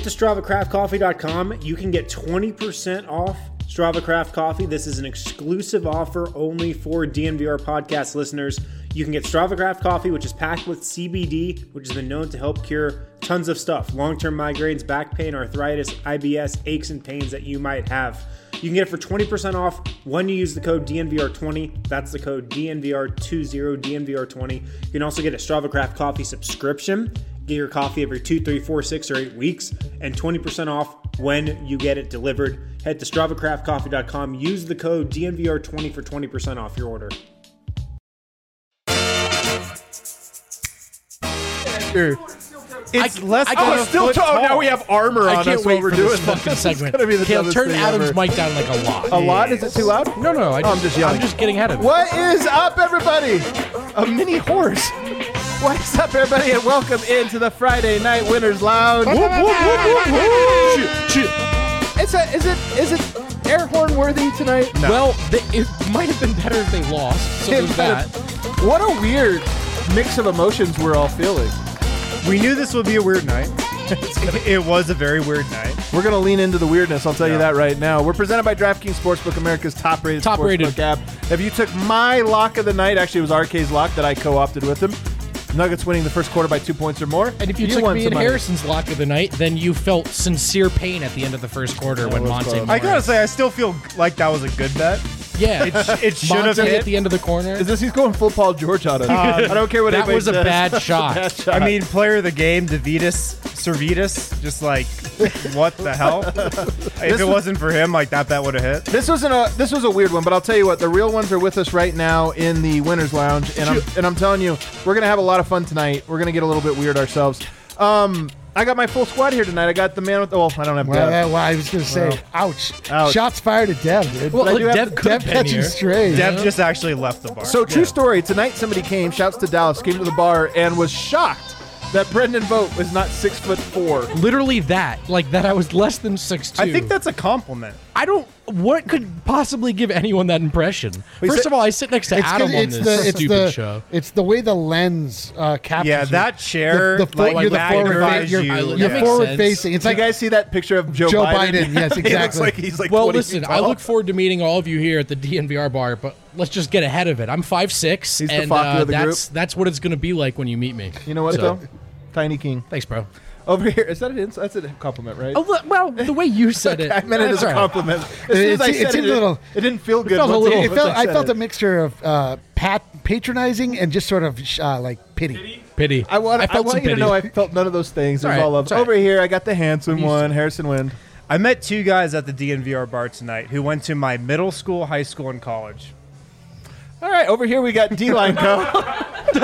to StravaCraftCoffee.com. You can get 20% off Strava Craft Coffee. This is an exclusive offer only for DNVR podcast listeners. You can get Strava Craft Coffee, which is packed with CBD, which has been known to help cure tons of stuff. Long-term migraines, back pain, arthritis, IBS, aches and pains that you might have. You can get it for 20% off when you use the code DNVR20. That's the code DNVR20, DNVR20. You can also get a Strava Craft Coffee subscription. Get your coffee every 2, 3, 4, 6, or 8 weeks, and 20% off when you get it delivered. Head to StravaCraftCoffee.com. Use the code DNVR20 for 20% off your order. It's less than a foot tall. Now we have armor on us while we're doing this fucking segment. Caleb, turn Adam's mic down like a lot. A lot? Is it too loud? No. I'm just yelling. I'm just getting ahead of it. What is up, everybody? A mini horse. What's up, everybody, and welcome into the Friday Night Winners Lounge. Whoop, whoop, whoop, whoop, whoop. Is it air horn worthy tonight? No. Well, it might have been better if they lost. So there's that. What a weird mix of emotions we're all feeling. We knew this would be a weird night. It was a very weird night. We're going to lean into the weirdness, I'll tell you that right now. We're presented by DraftKings Sportsbook, America's top-rated sportsbook app. If you took my lock of the night, actually it was RK's lock that I co-opted with him, Nuggets winning the first quarter by 2 points or more. And if you took me and Harrison's lock of the night, then you felt sincere pain at the end of the first quarter when Monte Morris. I gotta say, I still feel like that was a good bet. Yeah, it should have hit at the end of the corner. Is this he's going full Paul George on it? I don't care what that was a bad shot. I mean, player of the game, Servidis, just like, what the hell? If it wasn't for him, like that would have hit. This was a weird one, but I'll tell you what, the real ones are with us right now in the Winners Lounge, and I'm telling you, we're gonna have a lot of fun tonight. We're gonna get a little bit weird ourselves. I got my full squad here tonight. I got the man with the... Well, I don't have Dev. Well, I was going to say, ouch. Shots fired at Dev, dude. Well, Dev catching strays. Dev just actually left the bar. So, true story. Tonight, somebody came, shouts to Dallas, came to the bar and was shocked that Brendan Vogt was not 6'4". Literally that. Like that I was less than 6'2". I think that's a compliment. What could possibly give anyone that impression? First of all, I sit next to Adam on this stupid show. It's the way the lens captures. Yeah, that chair. You're forward facing. Did you guys see that picture of Joe Biden? Yes, exactly. He's like well, listen, I look forward to meeting all of you here at the DNVR bar, but let's just get ahead of it. I'm 5'6", He's and the of the group. That's what it's going to be like when you meet me. You know what, though? Tiny King. Thanks, bro. Over here, is that an insult? That's a compliment, right? Oh, well, the way you said it. I meant it as a compliment. As soon as I said it didn't feel good. I felt a mixture of patronizing and just sort of like pity. I want you to know I felt none of those things. There's all love. Over here, I got the handsome one, Harrison Wind. I met two guys at the DNVR bar tonight who went to my middle school, high school, and college. All right, over here we got D-Line Co.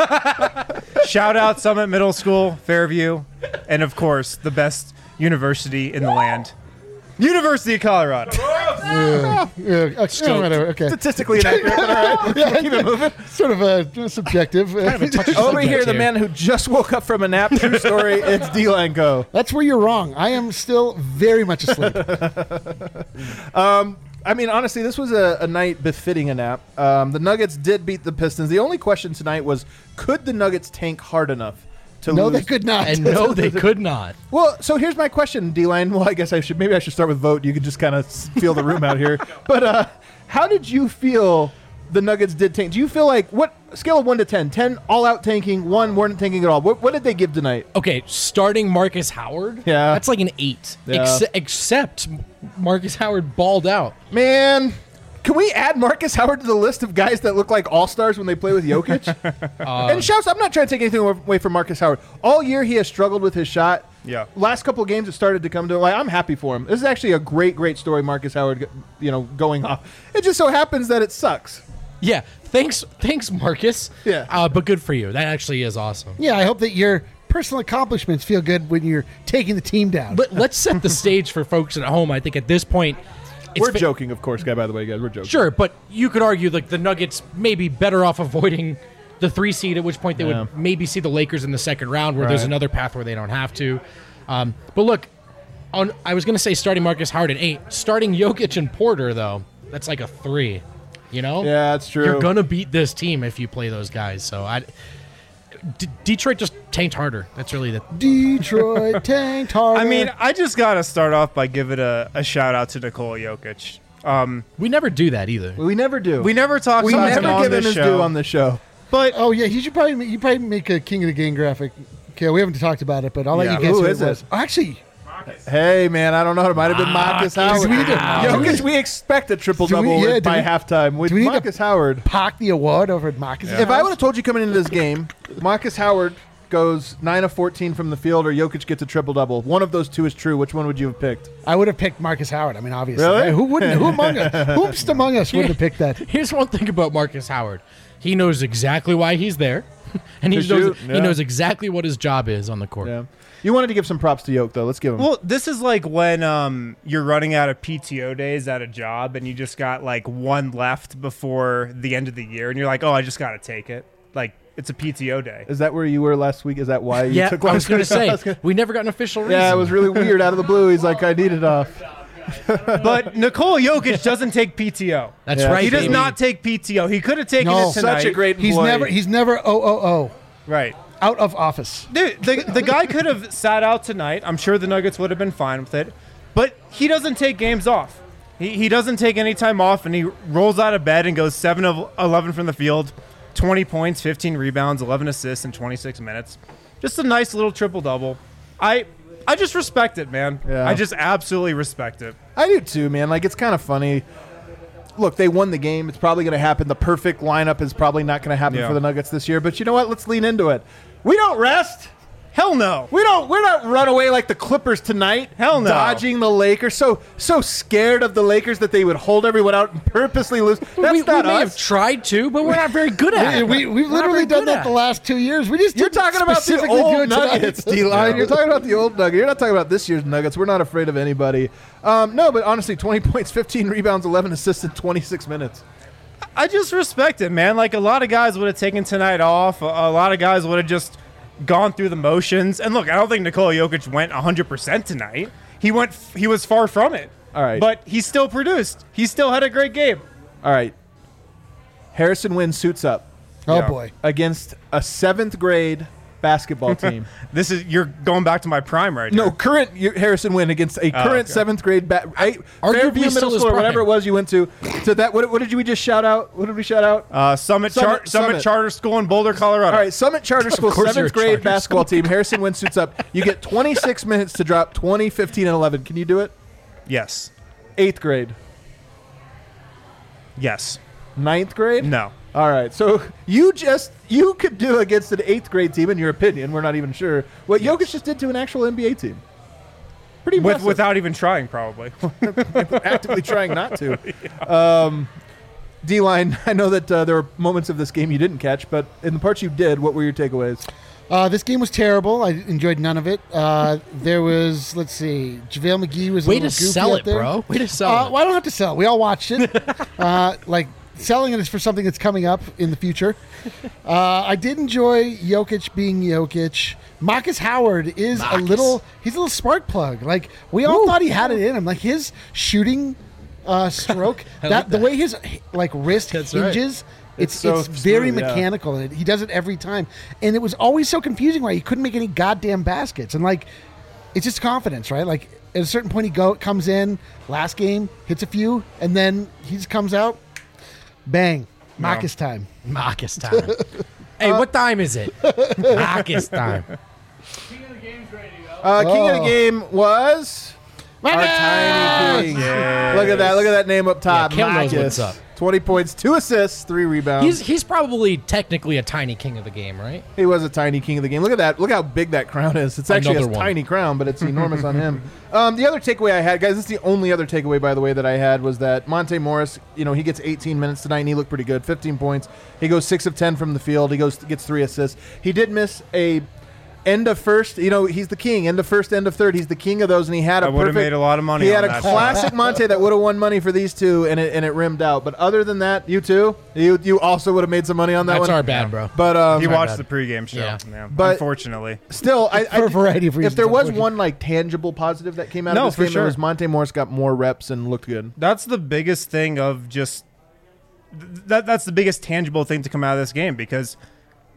Shout out Summit Middle School, Fairview, and of course, the best university in the land, University of Colorado. Okay. Statistically inaccurate, but all right. Keep it moving. Sort of subjective. Over here, the man who just woke up from a nap. True story. It's D-Line Co. That's where you're wrong. I am still very much asleep. I mean, honestly, this was a night befitting a nap. The Nuggets did beat the Pistons. The only question tonight was, could the Nuggets tank hard enough to lose? No, they could not. And no, they could not. Well, so here's my question, D-Line. Well, I guess I should start with Vogt. You could just kind of feel the room out here. But how did you feel the Nuggets did tank? Do you feel like, what scale of 1 to 10? 10 all-out tanking, 1 weren't tanking at all. What did they give tonight? Okay, starting Marcus Howard, that's like an 8. Yeah. Except Marcus Howard balled out. Man, can we add Marcus Howard to the list of guys that look like all-stars when they play with Jokic? And shouts, I'm not trying to take anything away from Marcus Howard. All year he has struggled with his shot. Yeah. Last couple of games it started to come to I'm happy for him. This is actually a great story, Marcus Howard, going off. It just so happens that it sucks. Yeah, thanks, Marcus. Yeah. But good for you. That actually is awesome. Yeah, I hope that your personal accomplishments feel good when you're taking the team down. Let's set the stage for folks at home. I think at this point, we're joking, of course, by the way, guys. We're joking. Sure, but you could argue like the Nuggets may be better off avoiding the 3 seed, at which point they would maybe see the Lakers in the second round, where there's another path where they don't have to. But look, I was going to say starting Marcus Howard at 8. Starting Jokic and Porter, though, that's like a 3. You know? Yeah, that's true. You're going to beat this team if you play those guys. So Detroit just tanked harder. That's really the Detroit tanked harder. I mean, I just got to start off by giving a shout out to Nikola Jokic. We never do that either. We never do. We never talk We about him never on give him this his show. due on the show. But oh yeah, you probably make a King of the Game graphic. Okay, we haven't talked about it, but I'll let Yeah. you guess Who who is it was. it? Actually, Hey, man, I don't know. It might have been Marcus Howard. Do we need to- Jokic, we expect a triple-double by halftime with do we need to- Marcus Howard. Park the award over at Marcus. If I would have told you coming into this game, Marcus Howard goes 9 of 14 from the field or Jokic gets a triple-double, one of those two is true. Which one would you have picked? I would have picked Marcus Howard. I mean, obviously. Really? Right? Who wouldn't? Who among us? Whoopst among us wouldn't have picked that? Here's one thing about Marcus Howard. He knows exactly why he's there, and he To knows, shoot, yeah. he knows exactly what his job is on the court. Yeah. You wanted to give some props to Yoke, though. Let's give him. well, this is like when you're running out of PTO days at a job and you just got like one left before the end of the year, and you're like, oh, I just got to take it. Like it's a PTO day. Is that where you were last week? Is that why you Yeah, took I was going to last week? say, we never got an official reason. Yeah, it was really weird out of the blue. He's like, I need it off. But Nikola Jokic doesn't take PTO. That's Yeah. right, He does baby. not take PTO. He could have taken No. it tonight. Such a great employee. He's never right. out of office. Dude, the guy could have sat out tonight. I'm sure the Nuggets would have been fine with it. But he doesn't take games off. He doesn't take any time off, and he rolls out of bed and goes 7 of 11 from the field, 20 points, 15 rebounds, 11 assists in 26 minutes. Just a nice little triple-double. I just respect it, man. Yeah. I just absolutely respect it. I do too, man. Like, it's kind of funny. Look, they won the game. It's probably going to happen. The perfect lineup is probably not going to happen Yeah. for the Nuggets this year. But you know what? Let's lean into it. We don't rest. Hell no. We're not run away like the Clippers tonight. Hell no. Dodging the Lakers. So scared of the Lakers that they would hold everyone out and purposely lose. That's we not may have us. tried to, but we're not very good at it. We've We're not literally very done good that at the it. last 2 years. We just You're didn't talking about the specifically do old it tonight. Nuggets, D-Line. You're talking about the old Nuggets. You're not talking about this year's Nuggets. We're not afraid of anybody. No, but honestly, 20 points, 15 rebounds, 11 assists in 26 minutes. I just respect it, man. Like, a lot of guys would have taken tonight off. A lot of guys would have just gone through the motions. And look, I don't think Nikola Jokic went 100% tonight. He was far from it. All right. But he still produced. He still had a great game. All right. Harrison Wind suits up Oh Yeah. boy. against a 7th grade basketball team. You're going back to my prime right No, here. current Harrison Wind against a current okay. 7th grade Arguably Fairview still Middle his School or whatever prime. it was you went to. So that what did we just shout out? What did we shout out? Summit Summit. Charter School in Boulder, Colorado. All right, Summit Charter School, course you're 7th a grade charter basketball team. Harrison Wind suits up. You get 26 minutes to drop 20, 15, and 11. Can you do it? Yes. 8th grade. Yes. 9th grade? No. All right, so you could do against an 8th grade team, in your opinion, we're not even sure, what Jokic just did to an actual NBA team. Pretty impressive. Without even trying, probably. Actively trying not to. D-Line, I know that there were moments of this game you didn't catch, but in the parts you did, what were your takeaways? This game was terrible. I enjoyed none of it. There was, let's see, JaVale McGee was a Way little to goofy sell out it, there. bro. Way to sell it. Well, I don't have to sell. We all watched it. Like, selling it is for something that's coming up in the future. I did enjoy Jokic being Jokic. Marcus Howard is Marcus. he's a little spark plug. Like, we all thought he had it in him. Like, his shooting stroke, the way his like wrist That's right. hinges, It's it's so very smooth, yeah. mechanical. And he does it every time. And it was always so confusing why he couldn't make any goddamn baskets. And like, it's just confidence, right? Like, at a certain point, he comes in, last game, hits a few, and then he just comes out, bang, Marcus time. Marcus time. Hey, what time is it? Marcus time. King of the game was our tiny king. Look at that name up top. Yeah, Kale knows Marcus. what's up. 20 points, 2 assists, 3 rebounds. He's probably technically a tiny king of the game, right? He was a tiny king of the game. Look at that. Look how big that crown is. It's actually a Another one. tiny crown, but it's enormous on him. The other takeaway I had, guys, this is the only other takeaway, by the way, that I had was that Monte Morris, he gets 18 minutes tonight, and he looked pretty good. 15 points. He goes 6 of 10 from the field. He gets 3 assists. He did miss a end of first. He's the king. End of first, end of third. He's the king of those, and he had I a would have perfect. made a lot of money He on had a that. classic Monte that would have won money for these two, and it rimmed out. But other than that, you too, you also would have made some money on that That's one. our bad, bro. But He Sorry, watched bud. the pregame show. Yeah. Yeah. But- Unfortunately. still, For a variety of If reasons, there was unfortunately. one like tangible positive that came out No, of this for game, sure. it was Monte Morris got more reps and looked good. That's the biggest thing of just that's the biggest tangible thing to come out of this game, because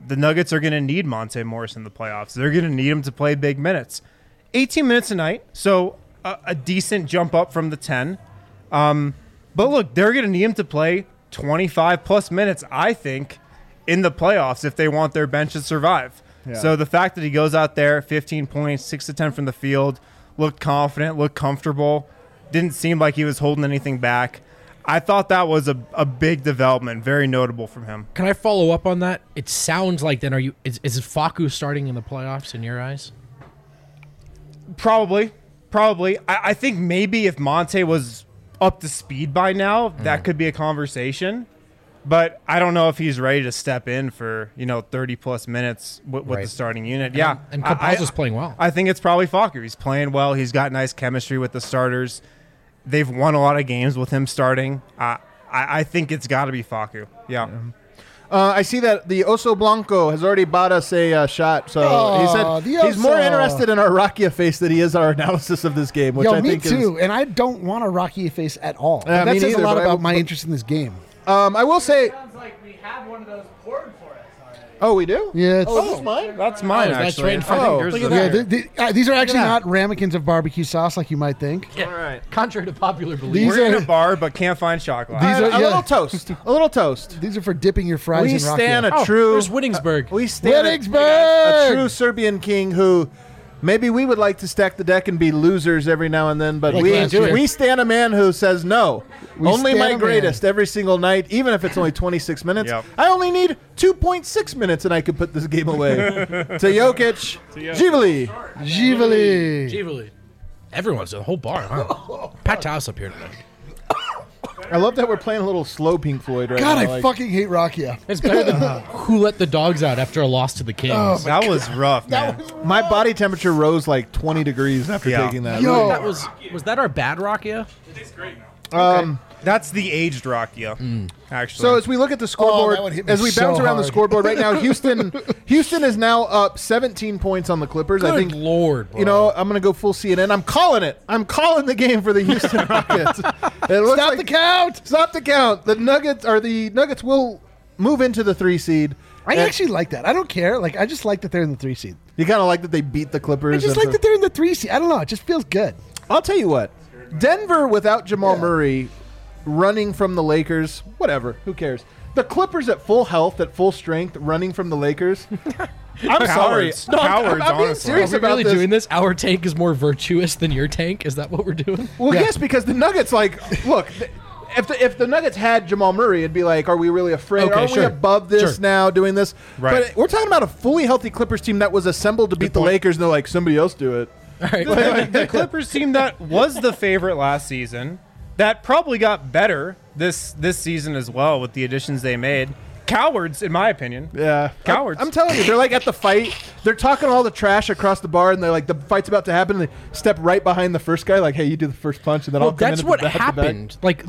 the Nuggets are going to need Monte Morris in the playoffs. They're going to need him to play big minutes. 18 minutes a night, so a decent jump up from the 10. But look, they're going to need him to play 25-plus minutes, I think, in the playoffs if they want their bench to survive. Yeah. So the fact that he goes out there, 15 points, 6 to 10 from the field, looked confident, looked comfortable, didn't seem like he was holding anything back. I thought that was a big development, very notable from him. Can I follow up on that? It sounds like then is Facu starting in the playoffs in your eyes? Probably. I think maybe if Monte was up to speed by now, that could be a conversation. But I don't know if he's ready to step in for 30-plus minutes with the starting unit. And Campazzo's playing well. I think it's probably Facu. He's playing well. He's got nice chemistry with the starters. They've won a lot of games with him starting. I think it's got to be Facu. Yeah. I see that the Oso Blanco has already bought us a shot. So he said he's more interested in our Rakia face than he is our analysis of this game, which I think too. And I don't want a Rakia face at all. That says neither, a lot about my interest in this game. I will say. Sounds like we have one of those poured for us already. Oh, we do? Yeah. Is this mine? That's mine, that's actually. right in front of you. Look at that. These are actually not ramekins of barbecue sauce like you might think. Yeah. All right. Contrary to popular belief. We're in a bar, but can't find shot glass. These are A little toast. A little toast. These are for dipping your fries We in stand Rakia. a true. There's Winningsburg. We stand a true Serbian king who. Maybe we would like to stack the deck and be losers every now and then, but we stand a man who says no. Only my greatest every single night, even if it's only 26 minutes. Yep. I only need 2.6 minutes and I could put this game away. To Jokic, Givali. Everyone's the whole bar, huh? Pat Taus up here tonight. I love that we're playing a little slow Pink Floyd right God, now. I fucking hate Rakia. It's better than Who Let the Dogs Out after a loss to the Kings. That was rough, man. My body temperature rose like 20 degrees after taking that. Yo. That was that our bad Rakia? It tastes great now. That's the aged Rakia, actually. So as we look at the scoreboard, that would hit me as we bounce so around the hard. scoreboard right now, Houston is now up 17 points on the Clippers. I Good think Lord, bro. You know, I'm going to go full CNN. I'm calling it. I'm calling the game for the Houston Rockets. It looks Stop the count. Stop the count. The Nuggets will move into the 3 seed. I And actually like that. I don't care. Like, I just like that they're in the 3 seed. you kind of like that they beat the Clippers. I just and like that they're in the 3 seed. I don't know. It just feels good. I'll tell you what. Denver without Jamal Murray running from the Lakers, whatever. Who cares? The Clippers at full health, at full strength, running from the Lakers. I'm sorry. Cowards. No, Cowards, I'm being honestly. Are serious we about really this. doing this? Our tank is more virtuous than your tank? Is that what we're doing? Well, yes, because the Nuggets, look, if the Nuggets had Jamal Murray, it'd be like, are we really afraid? Okay, are we above this Sure. now, doing this? Right. But we're talking about a fully healthy Clippers team that was assembled to beat the point. Lakers, and they're like, somebody else do it. All right. the Clippers team that was the favorite last season, that probably got better this season as well with the additions they made. Cowards, in my opinion. Yeah. Cowards. I'm telling you, they're like at the fight. They're talking all the trash across the bar, and they're like, the fight's about to happen. And they step right behind the first guy, like, hey, you do the first punch, and then Well, I'll come that's in what at the back. happened. Like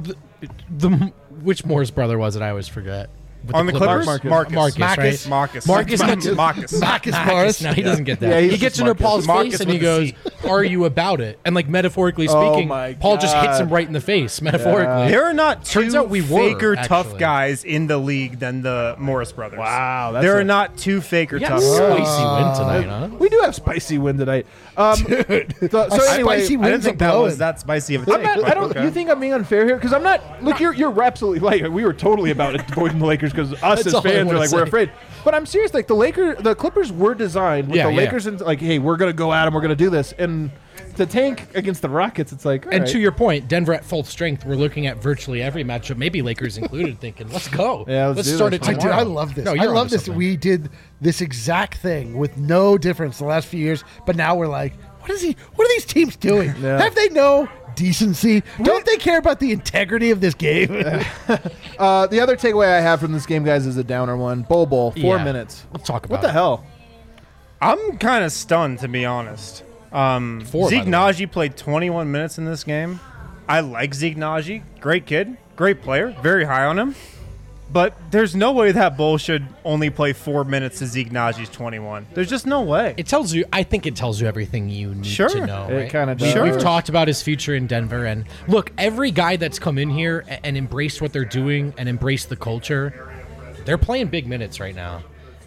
which Morris brother was it? I always forget. With On the Clippers? Marcus. Marcus. Marcus, right? Marcus. Marcus gets Marcus. Marcus Morris. No, he doesn't get that. Yeah, he's he gets just into Marcus. Paul's Marcus face and he with goes, a "Are you about it?" And like metaphorically speaking, my Paul just hits him God. right in the face. Metaphorically, There are not two Turns out we were, faker tough actually. guys in the league than the Morris brothers. Wow, that's There a- are not two faker yeah, tough spicy guys. win tonight, huh? We do have spicy win tonight. So anyway, Spicy I didn't wins think are that blowing. was that spicy of a I'm take. not, but I don't. okay. You think I'm being unfair here? Because I'm not. Look, you're absolutely right. We were totally about avoiding the Lakers because us That's as all I fans wanna are like we're say. afraid. But I'm serious. Like the Clippers were designed with Yeah, the yeah. Lakers and like, hey, we're gonna go at them. We're gonna do this. And to tank against the Rockets, it's like. And to your point, Denver at full strength, we're looking at virtually every matchup, maybe Lakers included, thinking, let's go. Yeah, let's do start this. it Dude, tomorrow. I love this. No, I you're love onto this. something. We did this exact thing with no difference the last few years, but now we're like, what are these teams doing? Yeah. Have they no decency? Don't they care about the integrity of this game? the other takeaway I have from this game, guys, is a downer one. Bowl, 4 Yeah. minutes. Let's talk about What the it. hell? I'm kind of stunned, to be honest. By Zeke the way. Naji played 21 minutes in this game. I like Zeke Naji. Great kid. Great player. Very high on him. But there's no way that Bull should only play 4 minutes to Zeke Naji's 21. There's just no way. It tells you. I think it tells you everything you need Sure. to know. It Right? kinda does. Sure. We've talked about his future in Denver, and look, every guy that's come in here and embraced what they're doing and embraced the culture, they're playing big minutes right now.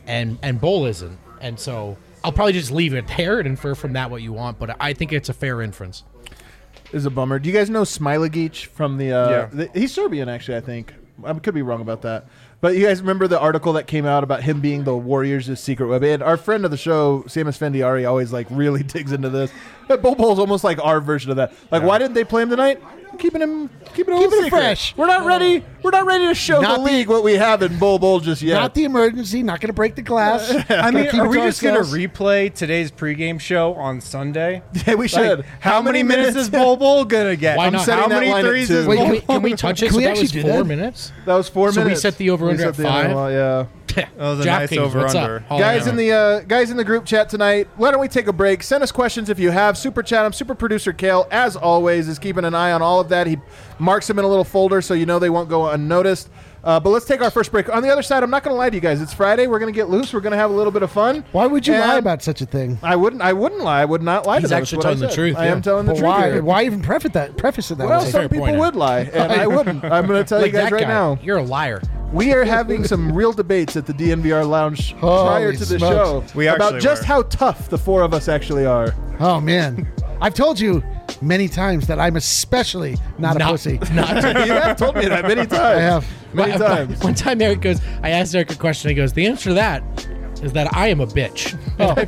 and Bowl isn't. And so I'll probably just leave it there and infer from that what you want. But I think it's a fair inference. This is a bummer. Do you guys know Smilagic from he's Serbian, actually, I think. I could be wrong about that. But you guys remember the article that came out about him being the Warriors' secret weapon? And our friend of the show, Samus Fendiari, always like really digs into this. But Bol Bol's almost like our version of that. Like, why didn't they play him tonight? Keeping him fresh. We're not ready to show the league what we have in Bol Bol just yet. Not the emergency. Not going to break the glass. I mean, keep are it we to just going to ourselves. replay today's pregame show on Sunday? Yeah, we should. Like, how many minutes is Bol Bol going to get? Why not? setting How that many line at threes 2. is Wait, Bol Can we touch it? Can we So that was actually do 4 that? minutes. That was 4 So we minutes. set the over-under We at set the under, 5? well, yeah. That was a nice DraftKings, what's up? over-under. Oh, Guys yeah. in the group chat tonight, why don't we take a break? Send us questions if you have. Super chat 'em. Super producer Kale, as always, is keeping an eye on all of that. He marks them in a little folder so you know they won't go unnoticed. But let's take our first break. On the other side, I'm not going to lie to you guys. It's Friday. We're going to get loose. We're going to have a little bit of fun. Why would you And lie about such a thing? I wouldn't lie. I would not lie to He's them. actually That's what I telling the said. truth, I yeah. am telling the But truth. why? here. Why even preface it that Well, way? some Fair people point. would lie, and I wouldn't. I'm going to tell Like you guys that right guy. now. You're a liar. We are having some real debates at the DNVR Lounge prior Holy to the smokes. show We about actually just were. how tough the four of us actually are. Oh man, I've told you many times that I'm especially not a pussy. Not You have told me that many times. I have. Many times. One time Eric goes, I asked Eric a question. He goes, the answer to that is that I am a bitch.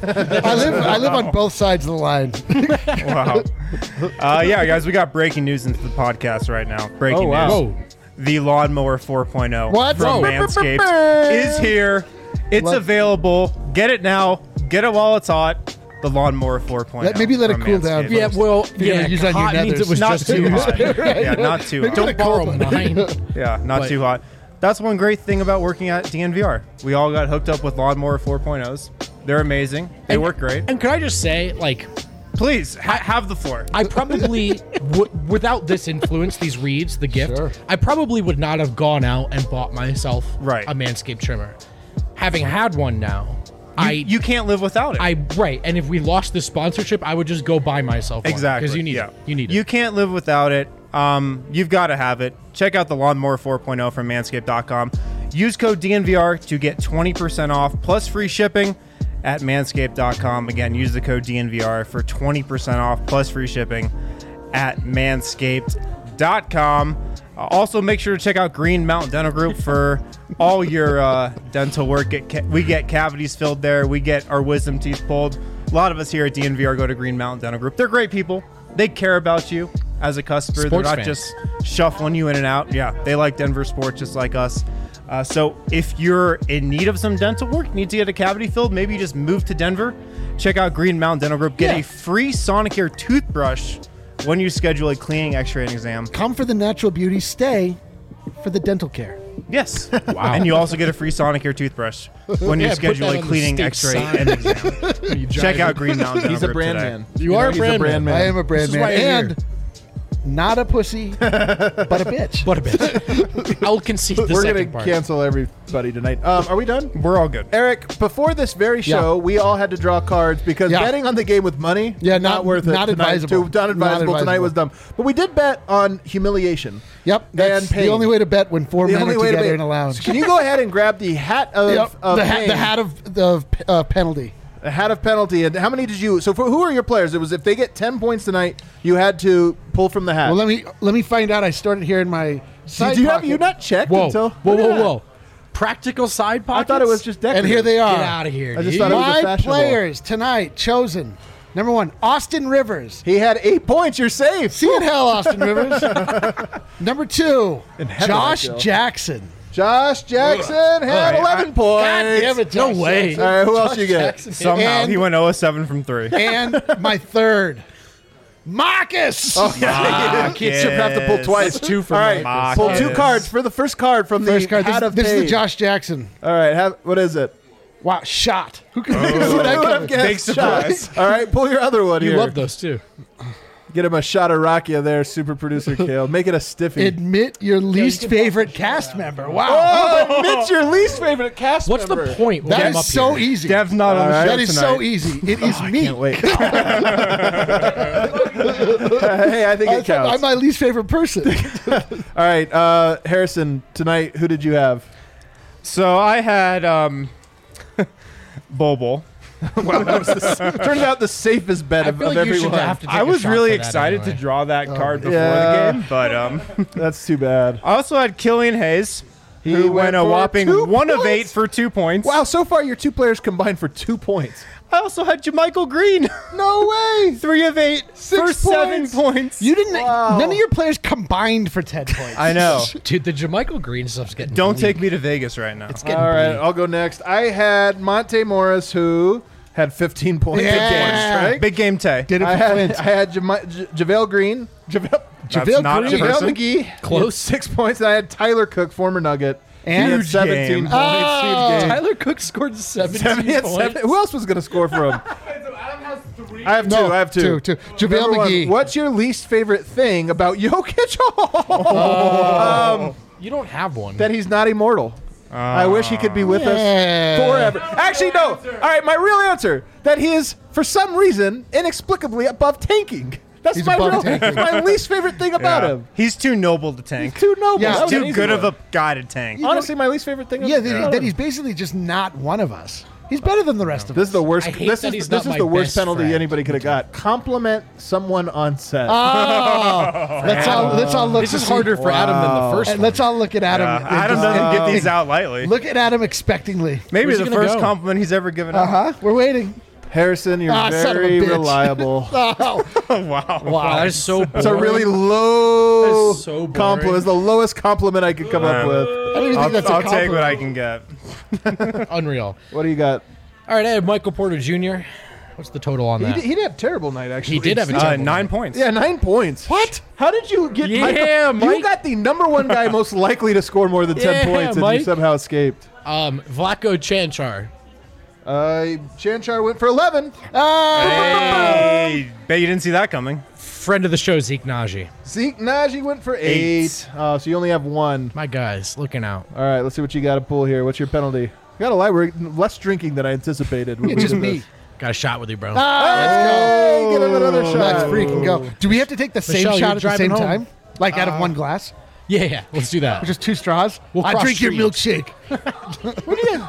I live on both sides of the line. Wow. Yeah, guys, we got breaking news into the podcast right now. Breaking Oh, wow. news. Whoa. The Lawnmower 4.0 What? from Whoa. Manscaped is here. It's available. Get it now. Get it while it's hot. The Lawnmower 4.0. Maybe let it from cool down Manscaped. Yeah, well, You're yeah, gonna use on your hot means nethers. it was Not just too too hot. hot. Yeah, not too hot. Don't borrow mine. Yeah, not But- too hot. That's one great thing about working at DNVR. We all got hooked up with Lawnmower 4.0s. They're amazing. They work great. And can I just say, like, Please, have the floor. I probably, without this influence, these reads, the gift, Sure. I probably would not have gone out and bought myself Right. a Manscaped trimmer. Having had one now, You can't live without it. right. And if we lost this sponsorship, I would just go buy myself one. Exactly. Because you need yeah. it. You need it. You can't live without it. You've got to have it. Check out the Lawnmower 4.0 from Manscaped.com. Use code DNVR to get 20% off plus free shipping at Manscaped.com. Again, use the code DNVR for 20% off plus free shipping at Manscaped.com. Also, make sure to check out Green Mountain Dental Group for all your dental work. We get cavities filled there. We get our wisdom teeth pulled. A lot of us here at DNVR go to Green Mountain Dental Group. They're great people. They care about you as a customer. Sports They're not fans. just shuffling you in and out. Yeah, they like Denver sports just like us. So if you're in need of some dental work, need to get a cavity filled, maybe you just move to Denver, check out Green Mountain Dental Group. Get a free Sonicare toothbrush when you schedule a cleaning, x-ray, and exam. Come for the natural beauty. Stay for the dental care. Yes. Wow. And you also get a free Sonicare toothbrush when you Yeah, put schedule that a on the cleaning, state x-ray, sign. and exam. Check out Green Mountain Dental He's a Group brand today. man. You are a he's brand man. I am a brand This is man. why you're And here. not a pussy, but a bitch. What a bitch. I'll concede the We're second going to part. cancel everybody tonight. Are we done? We're all good. Eric, before this very show, we all had to draw cards because Yeah. betting on the game with money, Yeah, not worth it. not tonight. advisable. Not advisable. Not Tonight was advisable. dumb. But we did bet on humiliation. Yep, that's And pain. the only way to bet when four men are together in a lounge. Can you go ahead and grab the hat of, Yep, of the pain? hat of the penalty. A hat of penalty. And how many did you? So for who are your players? It was if they get 10 points tonight, you had to pull from the hat. Well, let me find out. I stored it here in my side Did you have pocket. you not checked Whoa. until? Whoa, Look at whoa, that. whoa. Practical side I pockets? thought it was just decorative. And here they are. Get out of here, I just dude. thought it was a My fashionable. players tonight chosen. Number 1, Austin Rivers. He had 8 points. You're safe. See in hell, Austin Rivers. Number 2, heaven, Josh I feel. Jackson. Josh Jackson had 11 points. Damn it, No Josh way. Jackson. All right, who else you get? Jackson. Somehow And- he went 0-7 from 3. And my third, Marcus. You should have to pull twice. That's 2 for All right, Marcus. pull 2 cards for the first card from First the card. hat of This is the pain. Josh Jackson. All right, what is it? Wow, shot. Who can Who see that would have coming? guessed? Big surprise. Shot. All right, pull your other one You here. love those too. Get him a shot of Rakia there, super producer Kale. Make it a stiffy. Admit your least favorite cast member. Wow. Oh, admit your least favorite cast What's member. the point? That I'm up is so here? easy. Dev's not on the All show right. That is tonight. so easy. It is me. Can't wait. Hey, I think it counts. I'm my least favorite person. All right, Harrison, tonight, who did you have? So I had Bobo. Wow, that was turns out the safest bet I of, feel of like you should everyone. have to take I a was shot really for that excited anyway. to draw that card before yeah. the game, but That's too bad. I also had Killian Hayes, He who went went a for whopping 2 1 of points? 8 for 2 points. Wow, so far your two players combined for 2 points. I also had Jermichael Green, No way. 3 of 8 for 7 points. You didn't. Wow. None of your players combined for 10 points. I know. Dude, the Jermichael Green stuff's getting. Don't bleak. take me to Vegas right now. It's getting All right, bleak. I'll go next. I had Monte Morris, who had 15 points. Yeah. against, right? Big game Tay. Did it I for had Flint. JaVale Green. JaVale not a Green. person. JaVale McGee. Close. 6 points. And I had Tyler Cook, former Nugget. And he had Huge 17 game. points. Oh. Huge game. Tyler Cook scored 17 He had points. 7. Who else was going to score for him? So Adam has 3. I have two. I have two. Two. JaVale Number one, McGee. what's your least favorite thing about Jokic? You don't have one. That he's not immortal. I wish he could be with Yeah. us forever. Actually, no. All right, my real answer: that he is, for some reason, inexplicably above tanking. That's He's my above real, tanking. my least favorite thing about him. He's too noble to tank. Too noble. Yeah, That was an Too easy good one. of a guy to tank. Honestly, my least favorite thing. Yeah, about that him. he's basically just not one of us. He's better than the rest of This us. is the worst. I hate This that is he's this not is my the worst best penalty friend. anybody could have got. Compliment someone on set. Oh, let's all look. This to is see- harder for Adam than the first And one. let's all look at Adam. and Adam just- doesn't get these out lightly. Look at Adam expectingly. Maybe Where's the he gonna first go? compliment he's ever given out. We're waiting. Harrison, you're Ah, son of a very bitch. reliable. Oh, Wow. Wow, that is so boring. It's a really low That is so boring. compliment. It's the lowest compliment I could come up with. I don't even think that's a I'll take what compliment. I can get. Unreal. What do you got? All right, I have Michael Porter Jr. What's the total on that? He did have a terrible night, actually. He did have a terrible 9 night. points. Yeah, 9 points. What? How did you get Yeah, Michael? You Mike. got the number one guy most likely to score more than 10 Yeah, points, and you Mike. somehow escaped. Vlatko Chanchar. Chanchar went for 11. Hey, bet you didn't see that coming. Friend of the show, Zeke Naji. Zeke Najee went for 8. Oh, so you only have 1. My guys, looking out. All right, let's see what you got to pull here. What's your penalty? You got to lie. We're less drinking than I anticipated. it's just me. Got a shot with you, bro. Hey, get him another shot. Let's freaking go. Do we have to take the same Michelle, shot you're at the driving same home? time? Like out of one glass? Yeah, let's do that. Just 2 straws? We'll I cross drink your streams. milkshake. What are you?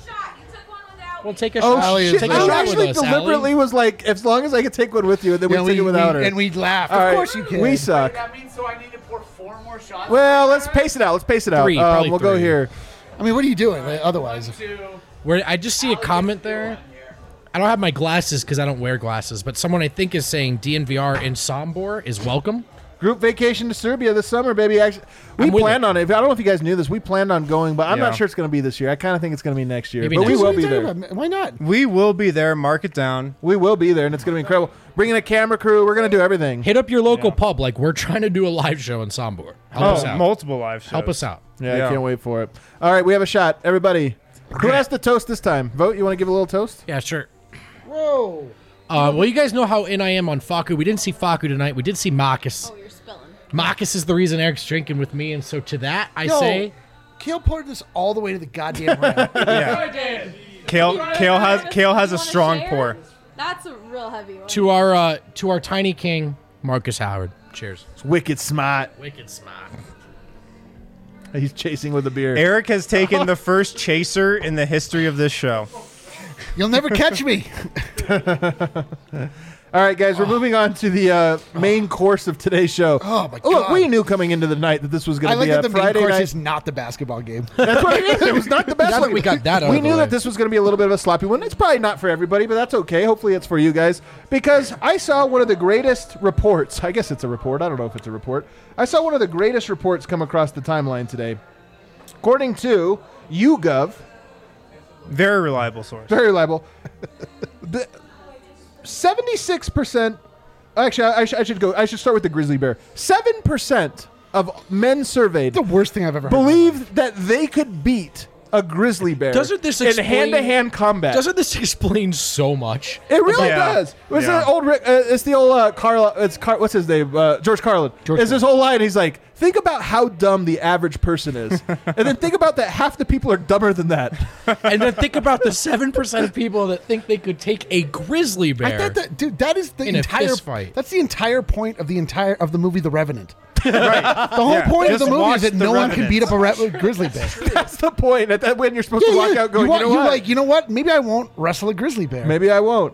We'll take a Oh, shot. shit. Take a I shot actually with us, deliberately Allie. was like, as long as I could take one with you, and then we'd take it without her. And we'd laugh. All Of right, course you can. We suck. That means so I need to pour 4 more shots. Well, let's pace it out. Let's pace it out. 3, probably We'll go 3. here. I mean, what are you doing otherwise? Where I just see a comment there. I don't have my glasses because I don't wear glasses, but someone I think is saying DNVR in Sombor is welcome. Group vacation to Serbia this summer, baby. Actually, we I'm with planned it. on it. I don't know if you guys knew this. We planned on going, but I'm Yeah. not sure it's going to be this year. I kind of think it's going to be next year. Maybe But we next will What are be you talking there. about? Why not? We will be there. Mark it down. We will be there, and it's going to be incredible. Bringing a camera crew. We're going to do everything. Hit up your local pub. Like, we're trying to do a live show in Sombor. Help us out. multiple live shows. Help us out. Yeah, Yeah. I can't wait for it. All right, we have a shot. Everybody. Who has to toast this time? Vote. You want to give a little toast? Yeah, sure. Whoa. Well, you guys know how in I am on Faku. We didn't see Faku tonight. We did see Marcus. Oh, you're spilling. Marcus is the reason Eric's drinking with me, and so to that I Yo, say, Kale poured this all the way to the goddamn rim. Yeah. Kale has a strong pour. That's a real heavy one. to our tiny king, Marcus Howard. Cheers. It's wicked smart. Wicked smart. He's chasing with a beer. Eric has taken the first chaser in the history of this show. You'll never catch me. All right, guys, we're moving on to the main course of today's show. Oh, my Look, God. we knew coming into the night that this was going I to like be that a the main Friday course night. is not the basketball game. That's what it is. It was not the best Now that one. we got that out We of the knew way. that this was going to be a little bit of a sloppy one. It's probably not for everybody, but that's okay. Hopefully it's for you guys. Because I saw one of the greatest reports. I guess it's a report. I don't know if it's a report. I saw one of the greatest reports come across the timeline today. According to YouGov, Very reliable source. very reliable, the 76%. Actually, I should go. I should start with the grizzly bear. 7% of men surveyed The worst thing I've ever heard. believed that they could beat a grizzly bear Doesn't this in explain- hand-to-hand combat. Doesn't this explain so much? It really Yeah. does. It's Yeah. the old. It's the old Carl. What's his name? George Carlin. It's his whole line. He's like, think about how dumb the average person is, and then think about that half the people are dumber than that. And then think about the 7% of people that think they could take a grizzly bear. I thought that, dude, that is the In a entire fist fight. That's the entire point of the movie The Revenant. Right. The whole point of the Just movie watch is that The no one can Revenant. beat up a grizzly bear. That's the point. At that when you're supposed to walk out going, You're what? like, you know what? Maybe I won't wrestle a grizzly bear. Maybe I won't.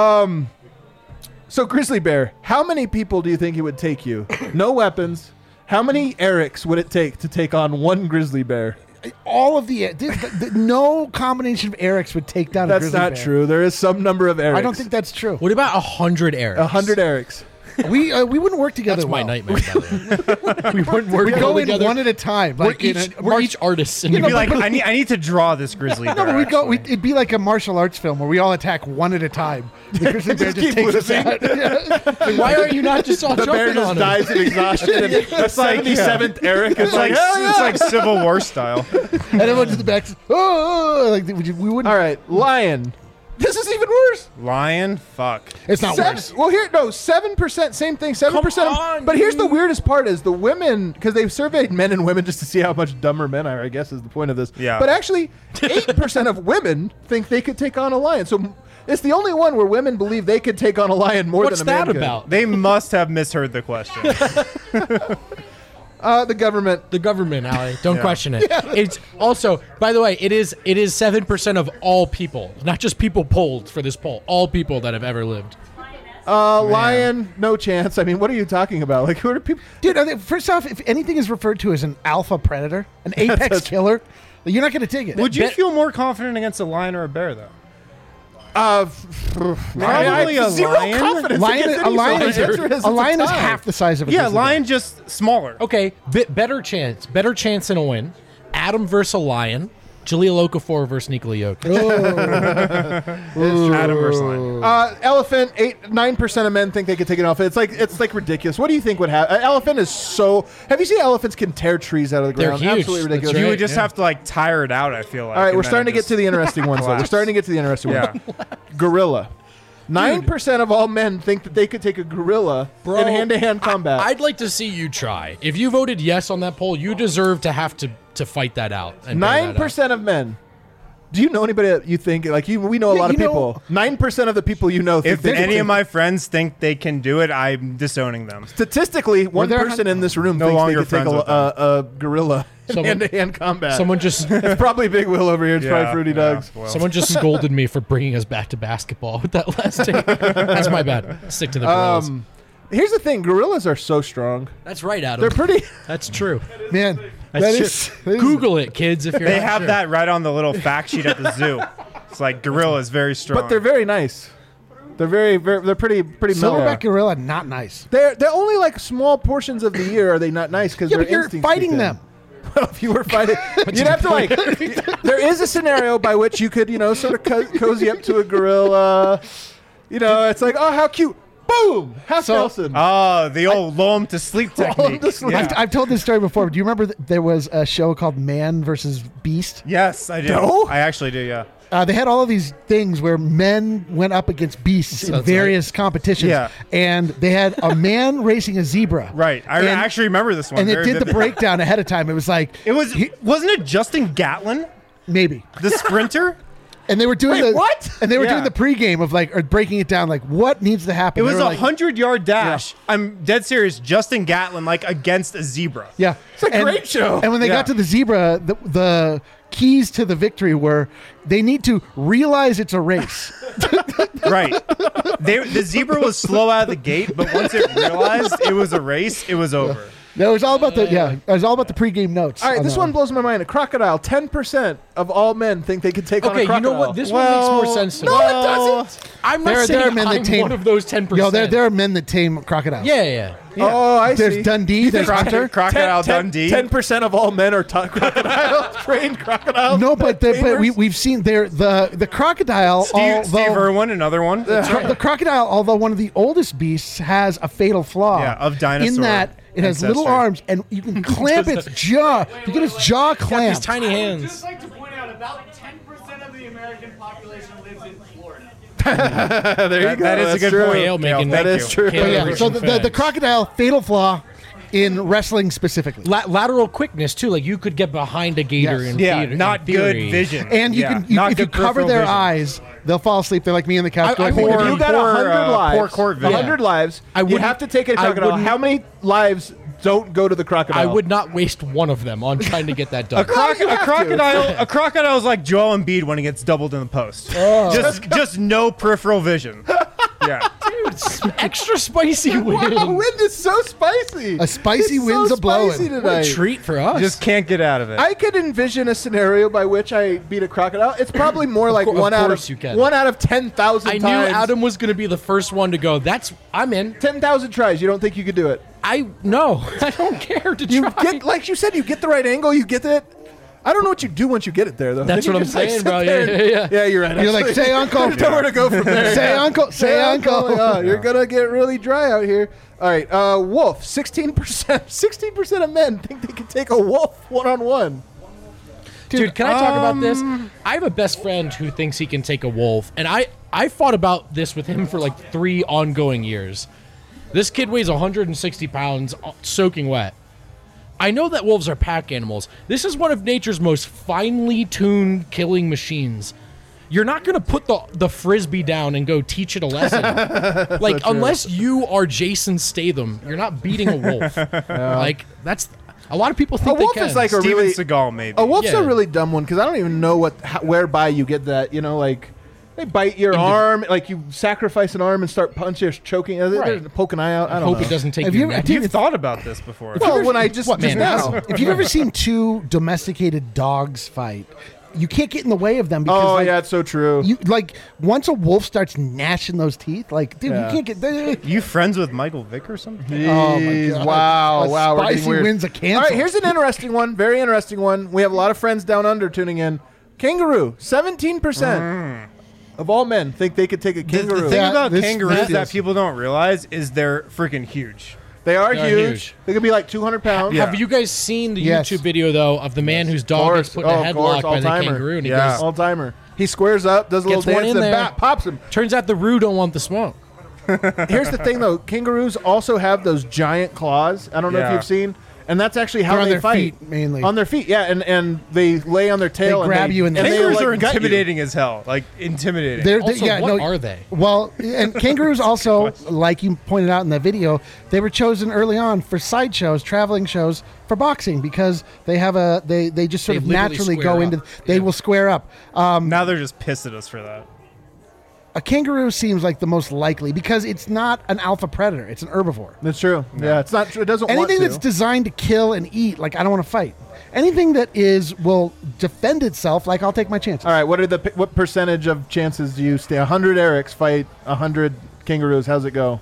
So grizzly bear, how many people do you think it would take you? No weapons. How many Erics would it take to take on one grizzly bear? All of no combination of Erics would take down a That's grizzly bear. not true. There is some number of Erics. I don't think that's true. What about 100 Erics? 100 Erics. We wouldn't work together. That's my well. nightmare. By the way. We wouldn't work We go in together. one at a time. Like We're each artists. And You'd be like, I need to draw this grizzly bear. No, but actually. it'd be like a martial arts film where we all attack one at a time. The grizzly bear just keep takes us losing. out. Yeah. why are you not just all The bear jumping just on him? dies of exhaustion. And the 77th Eric is It's like, hell yeah. it's like Civil War style. And everyone's in the back. Oh, like we wouldn't. All right, lion. This is even worse. Lion? Fuck. It's not worse. Well, 7%, same thing, 7%. Come on, But here's the weirdest part: is the women, because they've surveyed men and women just to see how much dumber men are. I guess is the point of this. Yeah. But actually, 8% of women think they could take on a lion. So it's the only one where women believe they could take on a lion more What's than a man that could. about? They must have misheard the question. The government. The government, Ali. Don't Yeah. question it. It's also, by the way, it is 7% of all people, not just people polled for this poll. All people that have ever lived. Lion, no chance. I mean, what are you talking about? Like, who are people? Dude, first off, if anything is referred to as an alpha predator, an apex killer, you're not going to take it. Would you feel more confident against a lion or a bear, though? Probably a zero lion? confidence against any lion soldier. is, a lion is half the size of a Yeah, grizzly bear. lion just smaller. Okay, better chance in a win. Adam versus a lion. Jaleel Okafor versus Nikola Jokic. Adam versus lion. Elephant. 9% of men think they could take an elephant. It's like ridiculous. What do you think would happen? An elephant is so. Have you seen elephants can tear trees out of the They're ground? huge. Absolutely ridiculous. That's You right. would just have to like tire it out, I feel like. All right, and we're then starting to it get just- to the interesting ones. Though. We're collapse. starting to get to the interesting Yeah. ones. Gorilla. 9% of all men think that they could take a gorilla Bro, in hand-to-hand combat. I'd like to see you try. If you voted yes on that poll, you deserve to have to fight that out. and bear that out. 9% of men. Do you know anybody that you think like you? We know a lot of you know- people. 9% of the people you know. Think If they could any take- of my friends think they can do it, I'm disowning them. statistically, one there person in this room No thinks they longer could take friends with them. a gorilla in Someone- hand-to-hand combat. Someone just It's probably Big Will over here. It's probably Fruity yeah, Doug's. well. someone just scolded me for bringing us back to basketball with that last take. That's my bad. Stick to the gorillas. Here's the thing: gorillas are so strong. That's right, Adam. They're pretty. That's true. Man, That's that true. is, that is- Google it, kids. If you're They not have sure. that right on the little fact sheet at the zoo. It's like gorilla is very strong. But they're very nice. They're very they're pretty mellow. Silverback gorilla, not nice. They're only like small portions of the year are they not nice because Yeah, their but you're instincts fighting kick in. them. Well, if you were fighting, you'd have to like. There is a scenario by which you could sort of cozy up to a gorilla. It's like, oh, how cute. Boom! Half Nelson. Oh, the old lull 'em to sleep technique. to sleep. Yeah. I've told this story before. Do you remember there was a show called Man versus Beast? Yes, I do. No? I actually do, yeah. They had all of these things where men went up against beasts in Sounds various competitions. Yeah. And they had a man racing a zebra. Right. I And- actually remember this one. And it very did the vividly. breakdown ahead of time. It was like, It was, wasn't it Justin Gatlin, maybe. the sprinter? And they were doing Wait, the what? And they were Yeah. doing the pregame of like, or breaking it down, like what needs to happen. It They was were a like- 100-yard dash. I'm dead serious. Justin Gatlin, like, against a zebra. Yeah, It's a great show. And when they Yeah. got to the zebra, the keys to the victory were they need to realize it's a race. Right. The zebra was slow out of the gate, but once it realized it was a race, it was over. That was all about it was all about the pregame notes. All right, this that one blows my mind. A crocodile. 10% of all men think they could take on a Okay, you crocodile. know what? This one makes more sense to me. No, it doesn't. I'm not There are saying men that I'm tame- one of those 10%. Yo, there are men that tame crocodiles. Yeah. Oh, I see. There's Dundee. There's Hunter. Crocodile Dundee. 10% of all men are crocodile trained crocodiles. No, but we've seen the crocodile. Steve Irwin, another one. The crocodile, although one of the oldest beasts, has a fatal flaw. Yeah, of dinosaur In that it has little ancestry. arms, and you can clamp its jaw. You get its jaw These clamped. tiny I'd hands. just like to point out about 10% of the American population lives in Florida. There you go. That is a That's good true. point. Kale making That is true. Kale But yeah, reaching so the facts. crocodile fatal flaw in wrestling specifically. Lateral quickness too, like you could get behind a gator Yes. in Yeah, theater, in not good theory. vision. And you Yeah, can not if you good cover peripheral their vision. eyes, they'll fall asleep. They're like me on the couch. I going, would- If you got Poor, 100 lives, poor court vision. 100 lives, I you wouldn't- have to take a I crocodile. wouldn't- How many lives don't go to the crocodile. I would not waste one of them on trying to get that done. A crocodile is like Joel Embiid when he gets doubled in the post. Just no peripheral vision. Yeah. Dude, extra spicy wind. Wow, wind is so spicy. A spicy It's wind's so a blowing. spicy What tonight. a treat for us. Just can't get out of it. I could envision a scenario by which I beat a crocodile. It's probably more like Of one out course of you can. 1 out of 10,000 I times. knew Adam was going to be the first one to go. I'm in. 10,000 tries. You don't think you could do it? No, I don't care to You try. get, like you said, you get the right angle. You get it. I don't know what you do once you get it there, though. That's Then what you I'm just, like, saying, sit bro. there and- Yeah. Yeah, you're right. You're like, actually. say uncle. There's nowhere to go from there. Say uncle. Say uncle. Oh, you're gonna get really dry out here. All right, wolf. 16%. 16% of men think they can take a wolf one-on-one. Dude, can I talk about this? I have a best friend who thinks he can take a wolf, and I fought about this with him for like 3 ongoing years. This kid weighs 160 pounds, soaking wet. I know that wolves are pack animals. This is one of nature's most finely tuned killing machines. You're not going to put the frisbee down and go teach it a lesson. Like, unless you are Jason Statham, you're not beating a wolf. Like, that's... A lot of people think A wolf they can. is like a Steven really Seagal, maybe. a wolf's Yeah. a really dumb one because I don't even know whereby you get that. You know, like they bite your arm, like you sacrifice an arm and start punching or choking, Right. poke an eye out. I don't Hope know. it doesn't take Have your you ever- neck. dude, You've thought about this before. Well, when I just What, man, now. If you've ever seen 2 domesticated dogs fight, you can't get in the way of them because Oh like, yeah, it's so true. you like once a wolf starts gnashing those teeth, like dude, Yeah. you can't get. You friends with Michael Vick or something? Oh my Jeez, God. wow, A wow, we're getting spicy weird. wins a cancel. All right, here's an interesting one, very interesting one. We have a lot of friends down under tuning in. Kangaroo, 17% of all men think they could take a kangaroo. The thing Yeah, about this kangaroos feels- that people don't realize is they're freaking huge. They are They're huge. huge. They could be like 200 pounds. Yeah. Have you guys seen the Yes. YouTube video though of the man whose dog course. gets put in a Oh, of course, headlock by the all-timer. kangaroo and he Yeah. goes, All timer. He squares up, does a little Gets one dance, in and there. pops him. turns out the roo don't want the smoke. Here's the thing, though. Kangaroos also have those giant claws. I don't know if Yeah. you've seen. And that's actually how They're on they their fight. feet, mainly. On their feet, yeah. And they lay on their tail. They grab and you and and they- they Kangaroos like, are gut you. intimidating as hell. Like, intimidating. Also, what are they? Well, and kangaroos also, like you pointed out in that video, they were chosen early on for sideshows, traveling shows for boxing because they have they just sort They of literally naturally square go up. into they Yeah. will square up. Now they're just pissed at us for that. A kangaroo seems like the most likely because it's not an alpha predator; it's an herbivore. That's true. Yeah, it's not true. It doesn't want Anything to. that's designed to kill and eat, like I don't want to fight. Anything that will defend itself, like I'll take my chances. All right, what percentage of chances do you stay? 100 Erics fight 100 kangaroos. How's it go?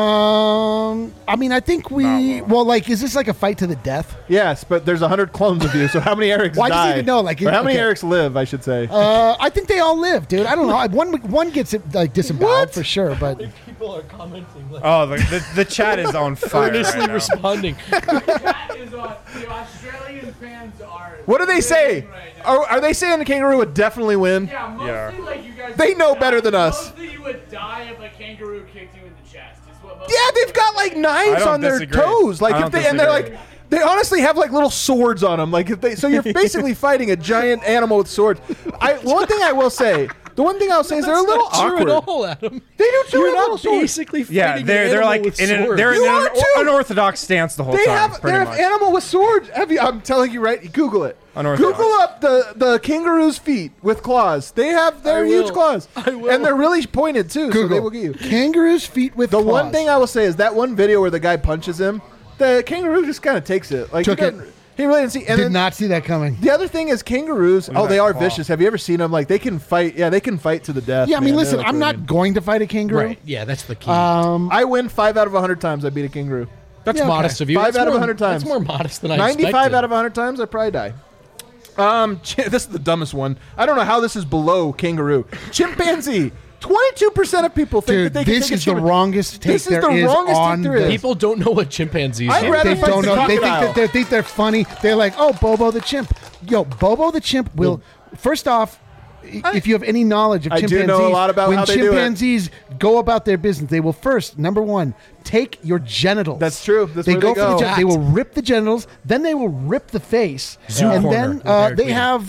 I mean, I think well, like, is this like a fight to the death? Yes, but there's 100 clones of you. So how many Erics Well, I just die? need to know, like, Or how many okay. Erics live? I should say. I think they all live, dude. I don't know. One gets it like disemboweled for sure, but People are commenting like Oh, the chat is on fire earnestly right now. responding. That is on. The Australian fans are. What do they say? living right now. Are they saying a kangaroo would definitely win? Yeah, mostly Yeah. like you guys. They would know die- better than us. Mostly you would die if a kangaroo kicked you in the chest. Is what most Yeah, they've got like knives don't on their disagree. toes. Like I if don't they and they're disagree. like they honestly have like little swords on them. Like if they so you're basically fighting a giant animal with swords. One thing I will say. The one thing I'll say is they're a little That's not awkward. true at all, Adam. They do too. You're have little not swords. basically fighting Yeah, an they're animal like with in swords. they're You in are an too. unorthodox stance the whole They time. have pretty they're much. an animal with swords. I'm telling you right. Google it. Unorthodox. Google up the kangaroo's feet with claws. They have their I huge will. claws, I will. and they're really pointed too. So they will get you. kangaroo's feet with The claws. one thing I will say is that one video where the guy punches him, the kangaroo just kind of takes it. Like Took he it. doesn't- He really didn't see. And did then not see that coming. the other thing is kangaroos. Oh, at they that are claw. vicious. Have you ever seen them? Like they can fight. Yeah, they can fight to the death. Yeah, I mean, man. listen, They're I'm like not going to fight a kangaroo. Right. Yeah, that's the key. I win 5 out of 100 times. I beat a kangaroo. that's yeah, okay. modest of you. 5 That's out of more- 100 times. That's more modest than I 95 expected. out of 100 times, I probably die. This is the dumbest one. I don't know how this is below kangaroo. Chimpanzee. 22% of people think Dude, that they can this take a is the chimpanzee. wrongest take This is there the is wrongest take on there is. the- People don't know what chimpanzees I'd are. rather They fight don't the know. They think crocodile. that they think they're funny. They're like, oh, Bobo the chimp. Yo, Bobo the chimp will. First off, if you have any knowledge of I do chimpanzees, know a lot about when how they do it. chimpanzees go about their business, they will first, number one, take your genitals. That's true. That's they where go they for the go. they will rip the genitals, then they will rip the face, Zoo and corner then with Eric they Weiner. have.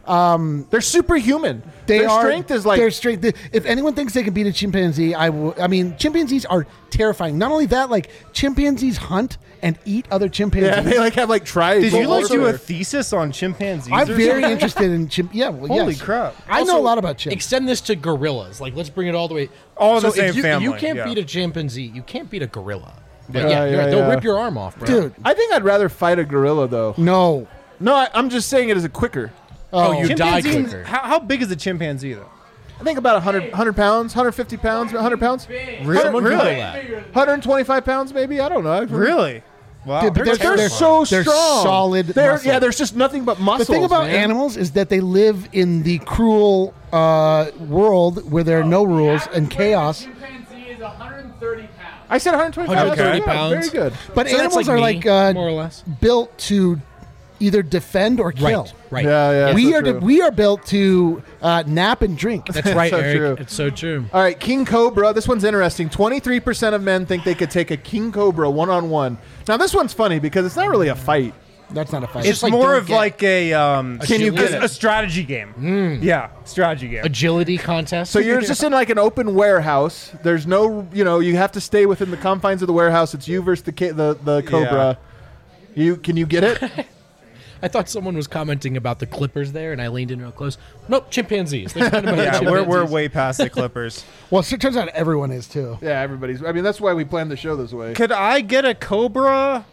They're superhuman. Their strength is like their strength. If anyone thinks they can beat a chimpanzee, I mean, chimpanzees are terrifying. Not only that, like chimpanzees hunt and eat other chimpanzees. Yeah, they like have like tribes. Did you all like do over. a thesis on chimpanzees? I'm or very something? interested in chimp. Yeah, well, Holy yes. crap. I know a lot about chimps. Extend this to gorillas. Like, let's bring it all the way. All in the if same you, family, You can't yeah. beat a chimpanzee. You can't beat a gorilla. Like, Yeah, you're right, yeah. they'll rip your arm off, bro. Dude, I think I'd rather fight a gorilla though. no. No, I'm just saying it as a quicker. Oh, you die Chimpanzee- quicker. How big is a chimpanzee, though? I think about 100 pounds, 150 pounds, 100 pounds, Someone Really? Google that. 125 pounds maybe. I don't know. Really? Wow. Dude, but They're They're so they're strong. solid muscle. Yeah, there's just nothing but muscles. The thing about man. animals is that they live in the cruel world where there are no rules and chaos. Chimpanzee is 130 pounds. I said 125 130 Yeah, pounds. Very good. But So that's animals like are me, like more or less. built to either defend or kill. Right. Yeah. We so are true. we are built to nap and drink. That's right, so Eric. true. It's so true. All right, king cobra. This one's interesting. 23% of men think they could take a king cobra one-on-one. Now, this one's funny because it's not really a fight. That's not a fight. It's just like more don't of get- like a Can you get a strategy game. Yeah, strategy game. Agility contest. So you're just in like an open warehouse. There's no, you have to stay within the confines of the warehouse. It's you versus the cobra. Can you get it? I thought someone was commenting about the Clippers there, and I leaned in real close. Nope, chimpanzees. They're talking about Yeah, we're chimpanzees. way past the Clippers. well, it turns out everyone is too. Yeah, everybody's. I mean, that's why we planned the show this way. Could I get a cobra?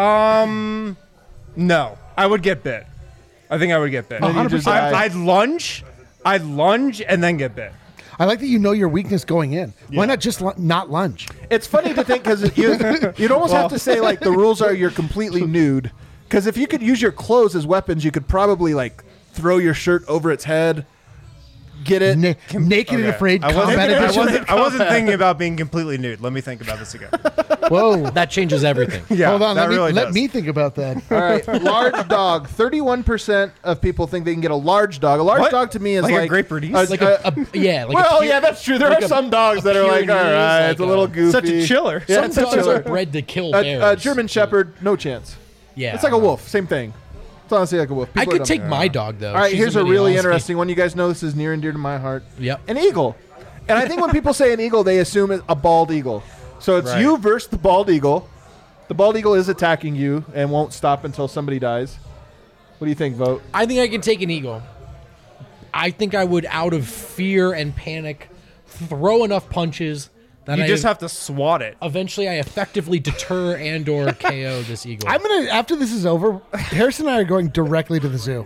No. I would get bit. I think I would get bit. Then you just die. I'd lunge and then get bit. I like that you know your weakness going in. Why not just not lunge? It's funny to think because you'd almost have to say like the rules are you're completely nude. Because if you could use your clothes as weapons, you could probably like throw your shirt over its head, get it. Naked and afraid. I Combat edition. wasn't thinking about being completely nude. Let me think about this again. Whoa. That changes everything. Yeah, Hold on. that really Let does. me think about that. All right, large dog. 31% of people think they can get a large dog. A large What? dog to me is Like a like Great Bernese? Like a yeah. Like well, a pure, yeah, that's true. There like are some dogs that are like, all Pyrenees, right, like it's a little goofy. Such a chiller. Yeah, Some it's such dogs a are bred to kill bears. A German Shepherd, no chance. Yeah, It's like a wolf, same thing. It's honestly like a wolf. I People are could take dumb. my dog though. All right, She's here's a mini really husky. interesting one. You guys know this is near and dear to my heart. Yep. An eagle. And I think when people say an eagle, they assume it's a bald eagle. So it's Right. you versus the bald eagle. The bald eagle is attacking you and won't stop until somebody dies. What do you think, Vote? I think I can take an eagle. I think I would, out of fear and panic, throw enough punches that You I just have to swat it. eventually I effectively deter and/or KO this eagle. I'm gonna after this is over, Harrison and I are going directly to the zoo.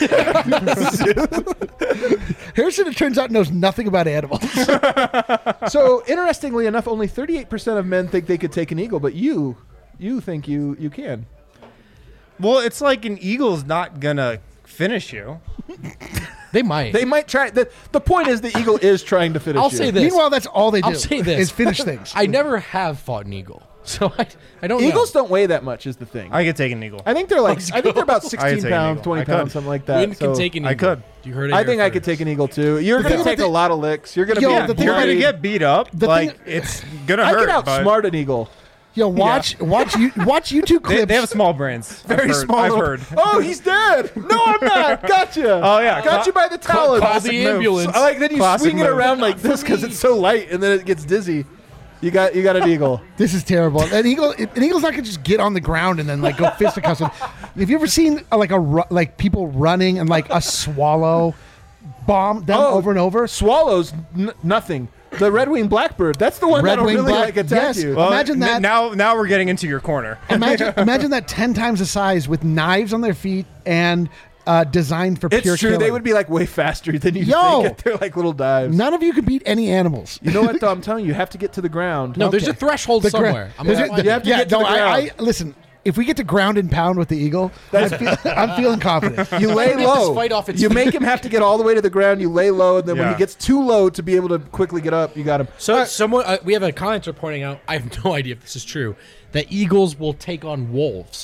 Harrison, it turns out, knows nothing about animals. So interestingly enough, only 38% of men think they could take an eagle, but you think you can. Well, it's like an eagle's not gonna finish you. They might. They might try. The point is the eagle is trying to finish I'll you. say this. Meanwhile, that's all they do. I'll say this. is finish things. I never have fought an eagle, so I don't Eagles know. don't weigh that much is the thing. I could take an eagle. I think they're like I think they're about I could 16 take an pounds, eagle. 20 I pounds, could. something like that. Win can So take an I eagle. could. You heard it I here think I could first. take an eagle too. You're going to thing take about a lot of licks. You're going to Yo, be the thing You're about gonna it- get beat up. the Like thing- it's gonna I hurt. can but outsmart an eagle. Yo, watch YouTube clips. they have small brains. Very small. I've little- heard. Oh, he's dead. No, I'm not. Gotcha. Oh, yeah. Got you by the talons. call the ambulance. I like then you Classic swing it move. around like this because it's so light, and then it gets dizzy. You got an eagle. This is terrible. An eagle's not gonna just get on the ground and then like go fisticuffs. Have you ever seen like people running and like a swallow bomb them over and over? Swallows, nothing. The red-winged blackbird. That's the one that'll Red-winged really like attack yes. you. Well, Imagine that. Now we're getting into your corner. Imagine that 10 times the size with knives on their feet and designed for It's pure true. killing. They would be like way faster than you Yo! think. They're like little dives. None of you can beat any animals. You know what, though? I'm telling you, you have to get to the ground. No, there's Okay. a threshold The gra- somewhere. I'm There's gonna a- find you it. have to get to the ground. Listen. If we get to ground and pound with the eagle, I'm feeling confident. You lay Get this low. fight off its You feet. make him have to get all the way to the ground. You lay low, and then when Yeah. he gets too low to be able to quickly get up, you got him. So someone we have a commenter pointing out. I have no idea if this is true. That eagles will take on wolves.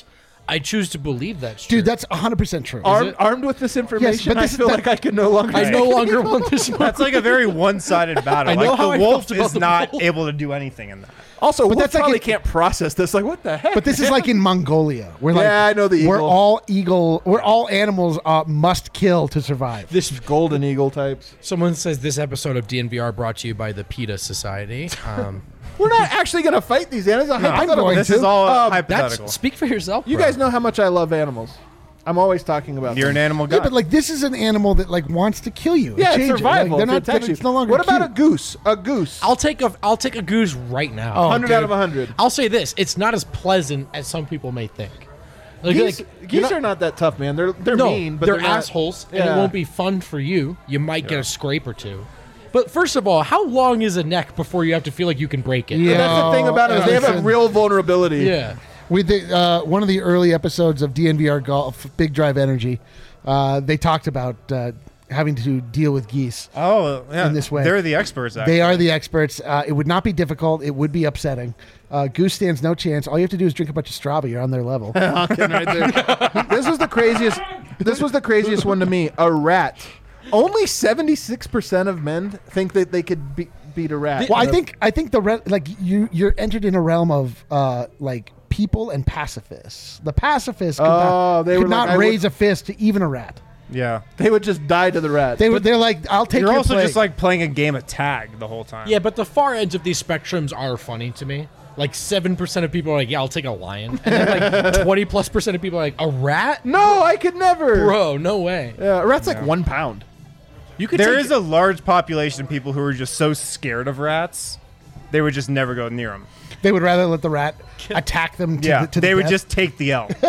I choose to believe that's true. Dude, that's 100% true. Armed with this information, but I feel like I can no longer. I no longer want this. That's like a very one-sided battle. I know like how the I wolf felt about is the not wolf. able to do anything in that. Also, but that's like probably it- can't process this. Like, what the heck? But this is like in Mongolia. We're like, Yeah, I know the We're eagle. all animals must kill to survive. This golden eagle types. someone says this episode of DNVR brought to you by the PETA Society. We're not actually going to fight these animals. I'm going This to. is all That's hypothetical. speak for yourself. You bro. guys know how much I love animals. I'm always talking about You're them. an animal guy. Yeah, but like this is an animal that like wants to kill you. Yeah, it's Change it. survival. Like, they're It not. protects It's you. no longer. What about a cute. goose? A goose. I'll take a goose right now. 100 out of 100. I'll say this: it's not as pleasant as some people may think. Geese, you're geese not- are not that tough, man. They're no, mean, but they're, they're not- assholes, and Yeah. it won't be fun for you. You might get a scrape or two. But first of all, how long is a neck before you have to feel like you can break it? Yeah. And that's the thing about it. Is they have a listen. real vulnerability. Yeah. With the one of the early episodes of DNVR Golf, Big Drive Energy, they talked about having to deal with geese. Oh, yeah. In this way. They're the experts, actually. They are the experts. It would not be difficult. It would be upsetting. Goose stands no chance. All you have to do is drink a bunch of Strava. You're on their level. Hawking right there. This was the craziest. This was the craziest one to me. A rat. Only 76% of men think that they could beat a rat. Well, I think like you're entered in a realm of like people and pacifists. The pacifists could Oh, they could were not like, I raise a fist to even a rat. Yeah. they would just die to the rat. They're like, I'll take You're your also plague. just like playing a game of tag the whole time. Yeah, but the far ends of these spectrums are funny to me. Like 7% of people are like, yeah, I'll take a lion. And then like 20+% of people are like, a rat? no, I could never. Bro, no way. Yeah, a rat's like 1 pound. You could There take is a large population of people who are just so scared of rats, they would just never go near them. They would rather let the rat attack them. To Yeah, the, to they the would death. just take the L.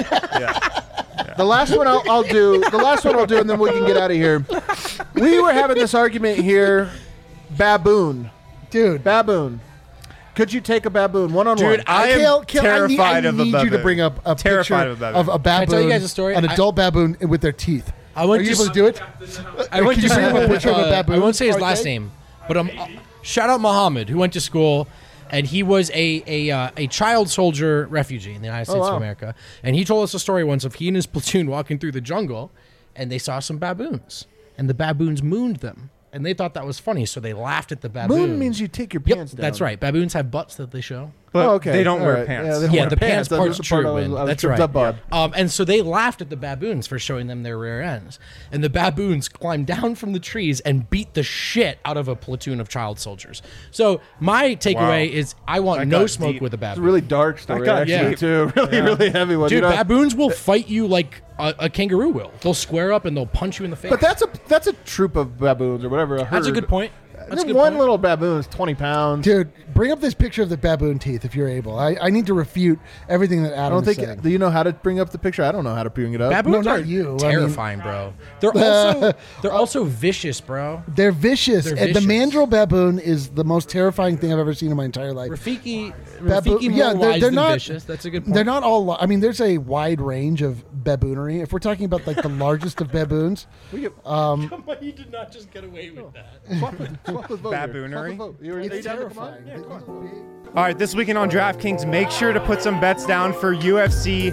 The last one I'll do. The last one I'll do, and then we can get out of here. We were having this argument here. Baboon. Dude. Baboon. Could you take a baboon one-on-one? Dude, I am terrified I of a need you to baboon. bring up a Terrified picture of a baboon. of a baboon. Can I tell you guys a story? An adult baboon with their teeth. I went Are you to able to do it? I went Can to you bring up a school picture of a with, baboon? I won't say his Okay. last name, but shout out Muhammad, who went to school, and he was a child soldier refugee in the United States wow. of America. And he told us a story once of he and his platoon walking through the jungle, and they saw some baboons, and the baboons mooned them, and they thought that was funny, so they laughed at the baboon. Moon means you take your Yep, pants down. that's right. Baboons have butts that they show. But Oh, okay. they don't All wear right. pants. Yeah, they don't Yeah, wear the pants That was part's the part true, I was- Win. I was That's tripped right. up on. And so they laughed at the baboons for showing them their rear ends. And the baboons climbed down from the trees and beat the shit out of a platoon of child soldiers. So my takeaway is I want That no got smoke deep. with a It's a baboon. really dark story, got actually, deep. too. Really, really heavy one. Dude, You know? baboons will fight you like a kangaroo will. They'll square up and they'll punch you in the face. But that's a troop of baboons or whatever. That's a herd. good point. That's a good One point. little baboon is 20 pounds. Dude, bring up this picture of the baboon teeth if you're able. I need to refute everything that I Adam don't is think. saying. Do you know how to bring up the picture? I don't know how to bring it up. Baboons No, not are you. I mean- terrifying, bro. They're also vicious, bro. They're vicious. They're And the vicious. mandrill baboon is the most terrifying thing I've ever seen in my entire life. Rafiki Baboon- more yeah, wise they're than not- vicious. That's a good point. They're not all. I mean, there's a wide range of baboonery. If we're talking about like the largest of baboons, You did not just get away with that. Swap with vote here. Baboonery? Swap with vote. Are you it's down to come on? terrifying. Yeah, come on. All right, this weekend on DraftKings, make sure to put some bets down for UFC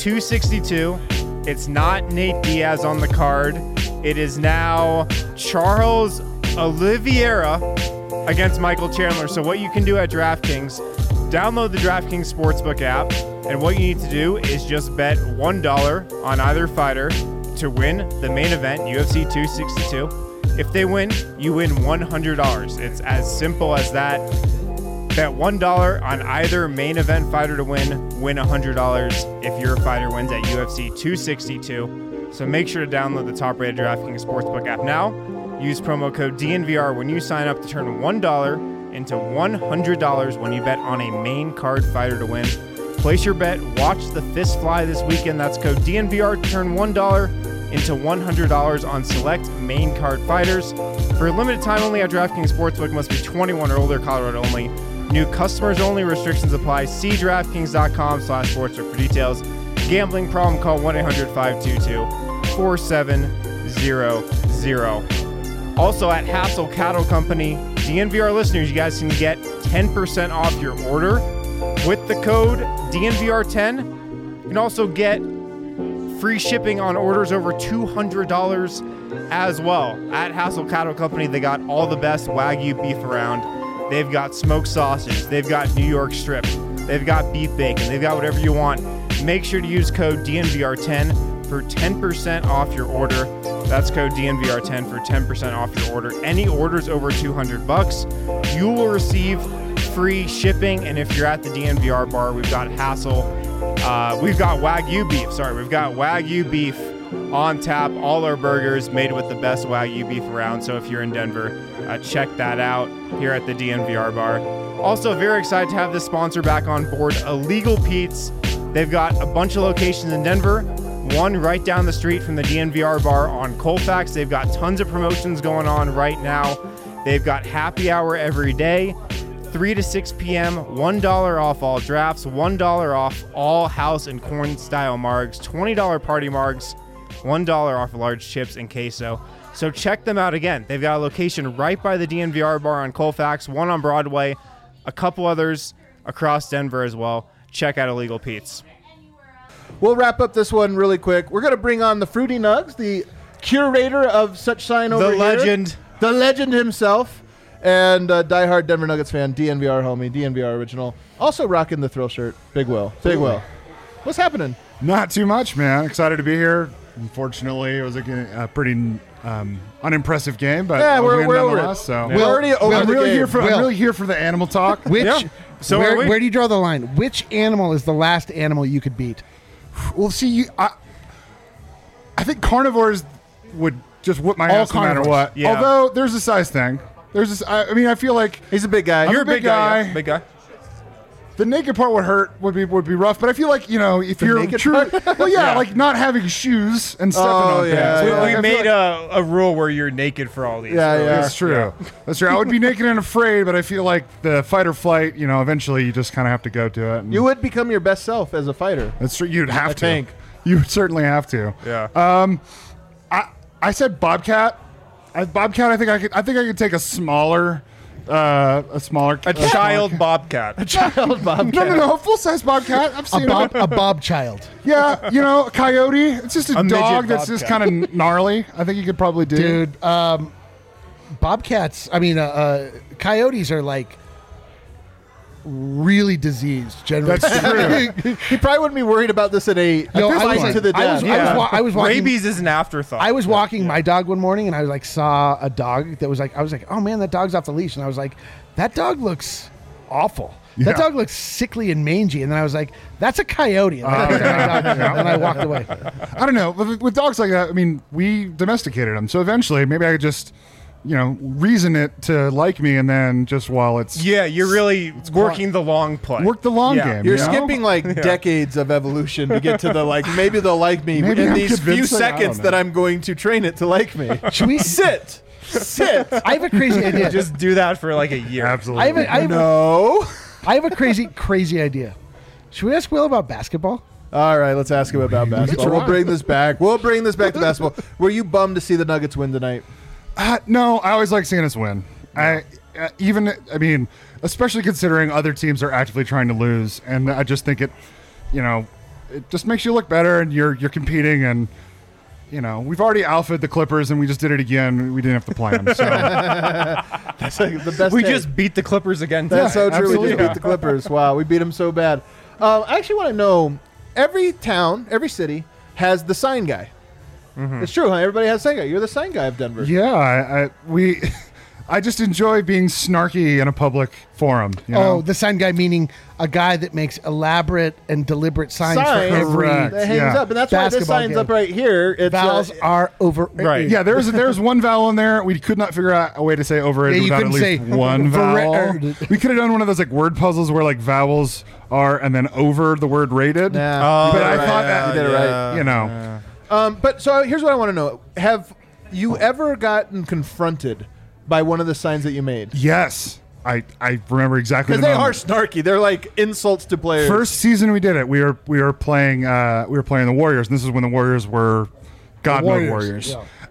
262. It's not Nate Diaz on the card. It is now Charles Oliveira against Michael Chandler. So what you can do at DraftKings, download the DraftKings Sportsbook app, and what you need to do is just bet $1 on either fighter to win the main event, UFC 262. If they win, you win $100. It's as simple as that. Bet $1 on either main event fighter to win $100 if your fighter wins at UFC 262. So make sure to download the top-rated DraftKings Sportsbook app now. Use promo code DNVR when you sign up to turn $1 into $100 when you bet on a main card fighter to win. Place your bet. Watch the fist fly this weekend. That's code DNVR to turn $1 into $100 on select main card fighters. For a limited time only at DraftKings Sportsbook, must be 21 or older, Colorado only. New customers only. Restrictions apply. See DraftKings.com/sportsbook for details. Gambling problem? Call 1-800-522-4700. Also at Hassel Cattle Company, DNVR listeners, you guys can get 10% off your order with the code DNVR10. can also get free shipping on orders over $200 as well. At Hassel Cattle Company, they got all the best Wagyu beef around. They've got smoked sausage. They've got New York strip. They've got beef bacon. They've got whatever you want. Make sure to use code DNVR10 for 10% off your order. That's code DNVR10 for 10% off your order. Any orders over $200, you will receive free shipping. And if you're at the DNVR bar, we've got we've got Wagyu beef. We've got Wagyu beef on tap. All our burgers made with the best Wagyu beef around. So if you're in Denver, check that out here at the DNVR bar. Also, very excited to have this sponsor back on board, Illegal Pete's. They've got a bunch of locations in Denver, one right down the street from the DNVR bar on Colfax. They've got tons of promotions going on right now. They've got happy hour every day, 3 to 6 p.m., $1 off all drafts, $1 off all house and corn style margs, $20 party margs, $1 off large chips and queso. So check them out again. They've got a location right by the DNVR bar on Colfax, one on Broadway, a couple others across Denver as well. Check out Illegal Pete's. We'll wrap up this one really quick. We're going to bring on the Fruity Nugs, the curator of such sign over here. The legend himself, and diehard Denver Nuggets fan, DNVR homie, DNVR original. Also rocking the Thrill shirt, Big Will. Big Will. What's happening? Not too much, man. Excited to be here. Unfortunately, it was a pretty unimpressive game, but yeah, we're over it. So we're already over I'm the really game. here for. I'm really here for the animal talk. So where do you draw the line? Which animal is the last animal you could beat? Well, see, I think carnivores would just whip my ass no matter what. Yeah. Although there's a size thing. There's this. I mean, I feel like he's a big guy. You're a big guy. Yeah. Big guy. The naked part would hurt. Would be rough. But I feel like if you're true, like not having shoes and stepping on things. So we made a rule where you're naked for all these. Yeah, that's true. Yeah. That's true. I would be naked and afraid, but I feel like the fight or flight. Eventually you just kind of have to go to it. You would become your best self as a fighter. That's true. You'd have to. Tank. You would certainly have to. Yeah. I said bobcat. Bobcat. I think I could take a smaller. A child bobcat. A child bobcat. No, a full-size bobcat. I've seen a bob child. Yeah, a coyote. It's just a dog that's just kind of gnarly. I think you could probably do. Dude, bobcats, coyotes are like really diseased, generally. That's true. He probably wouldn't be worried about this at a fight to the death. I was walking. Rabies is an afterthought. I was walking my dog one morning, and I saw a dog that was I was like, oh man, that dog's off the leash, and I was like, that dog looks awful. Yeah. That dog looks sickly and mangy, and then I was like, that's a coyote, and I walked away. I don't know. With dogs like that, we domesticated them, so eventually maybe I could just. Reason it to like me, and then just while it's you're really working the long play. Work the long game. You're skipping decades of evolution to get to the maybe they'll like me in these few seconds that I'm going to train it to like me. Should we sit? I have a crazy idea. Just do that for a year. Absolutely. I have a crazy idea. Should we ask Will about basketball? All right, let's ask him about basketball. We'll bring this back. We'll bring this back to basketball. Were you bummed to see the Nuggets win tonight? No, I always like seeing us win. Especially considering other teams are actively trying to lose, and I just think it just makes you look better, and you're competing, and we've already alphaed the Clippers, and we just did it again. We didn't have to play them. So that's the best. We just beat the Clippers again. That's so true. Absolutely. We just beat the Clippers. Wow, we beat them so bad. I actually want to know. Every town, every city has the sign guy. Mm-hmm. It's true, huh? Everybody has a sign guy. You're the sign guy of Denver. Yeah, I just enjoy being snarky in a public forum. The sign guy meaning a guy that makes elaborate and deliberate signs for every that hangs up, and that's why this sign's up right here. It's vowels are over. Right. Yeah, there's one vowel in there. We could not figure out a way to say overrated without at least one vowel. We could have done one of those word puzzles where vowels are and then over the word rated. Yeah. But I thought that you did it right. Yeah. But so here's what I want to know: have you ever gotten confronted by one of the signs that you made? Yes, I remember exactly. Because they are snarky. They're like insults to players. First season we did it. We were playing the Warriors, and this is when the Warriors were God mode Warriors. Yeah.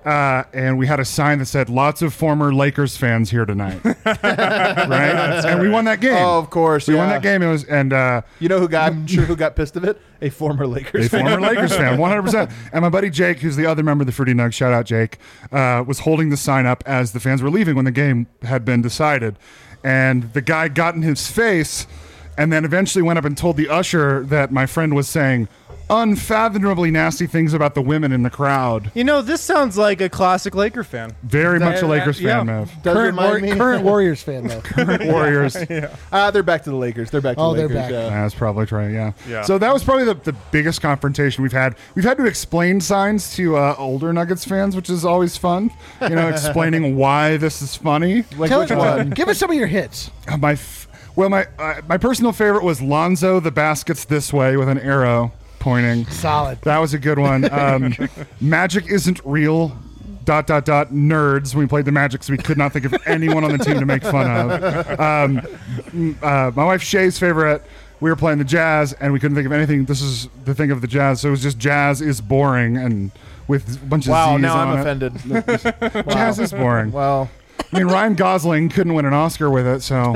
and we had a sign that said, "Lots of former Lakers fans here tonight." Right? And we won that game. Oh, of course. We won that game. It was, and you know I'm sure who got pissed of it? A former Lakers fan. Former Lakers fan, 100%. And my buddy Jake, who's the other member of the Fruity Nug, shout out Jake, was holding the sign up as the fans were leaving when the game had been decided. And the guy got in his face and then eventually went up and told the usher that my friend was saying unfathomably nasty things about the women in the crowd. You know, this sounds like a classic Laker fan. Very much a Lakers fan, yeah. Mav. Current Warriors fan, though. Current Warriors. They're back to the Lakers. They're back to the Lakers. They're back. Yeah. That's probably right, yeah. Yeah. So that was probably the biggest confrontation we've had. We've had to explain signs to older Nuggets fans, which is always fun. You know, explaining why this is funny. Like Tell which us- one? Give us some of your hits. My personal favorite was Lonzo, the basket's this way with an arrow pointing. Solid. That was a good one. Magic isn't real. ... nerds. We played the Magic, so we could not think of anyone on the team to make fun of. My wife Shay's favorite. We were playing the Jazz, and we couldn't think of anything. This is the thing of the Jazz, so it was just Jazz is boring, and with a bunch of Wow, Z's now on I'm it. offended. Jazz is boring. Well, I mean, Ryan Gosling couldn't win an Oscar with it, so.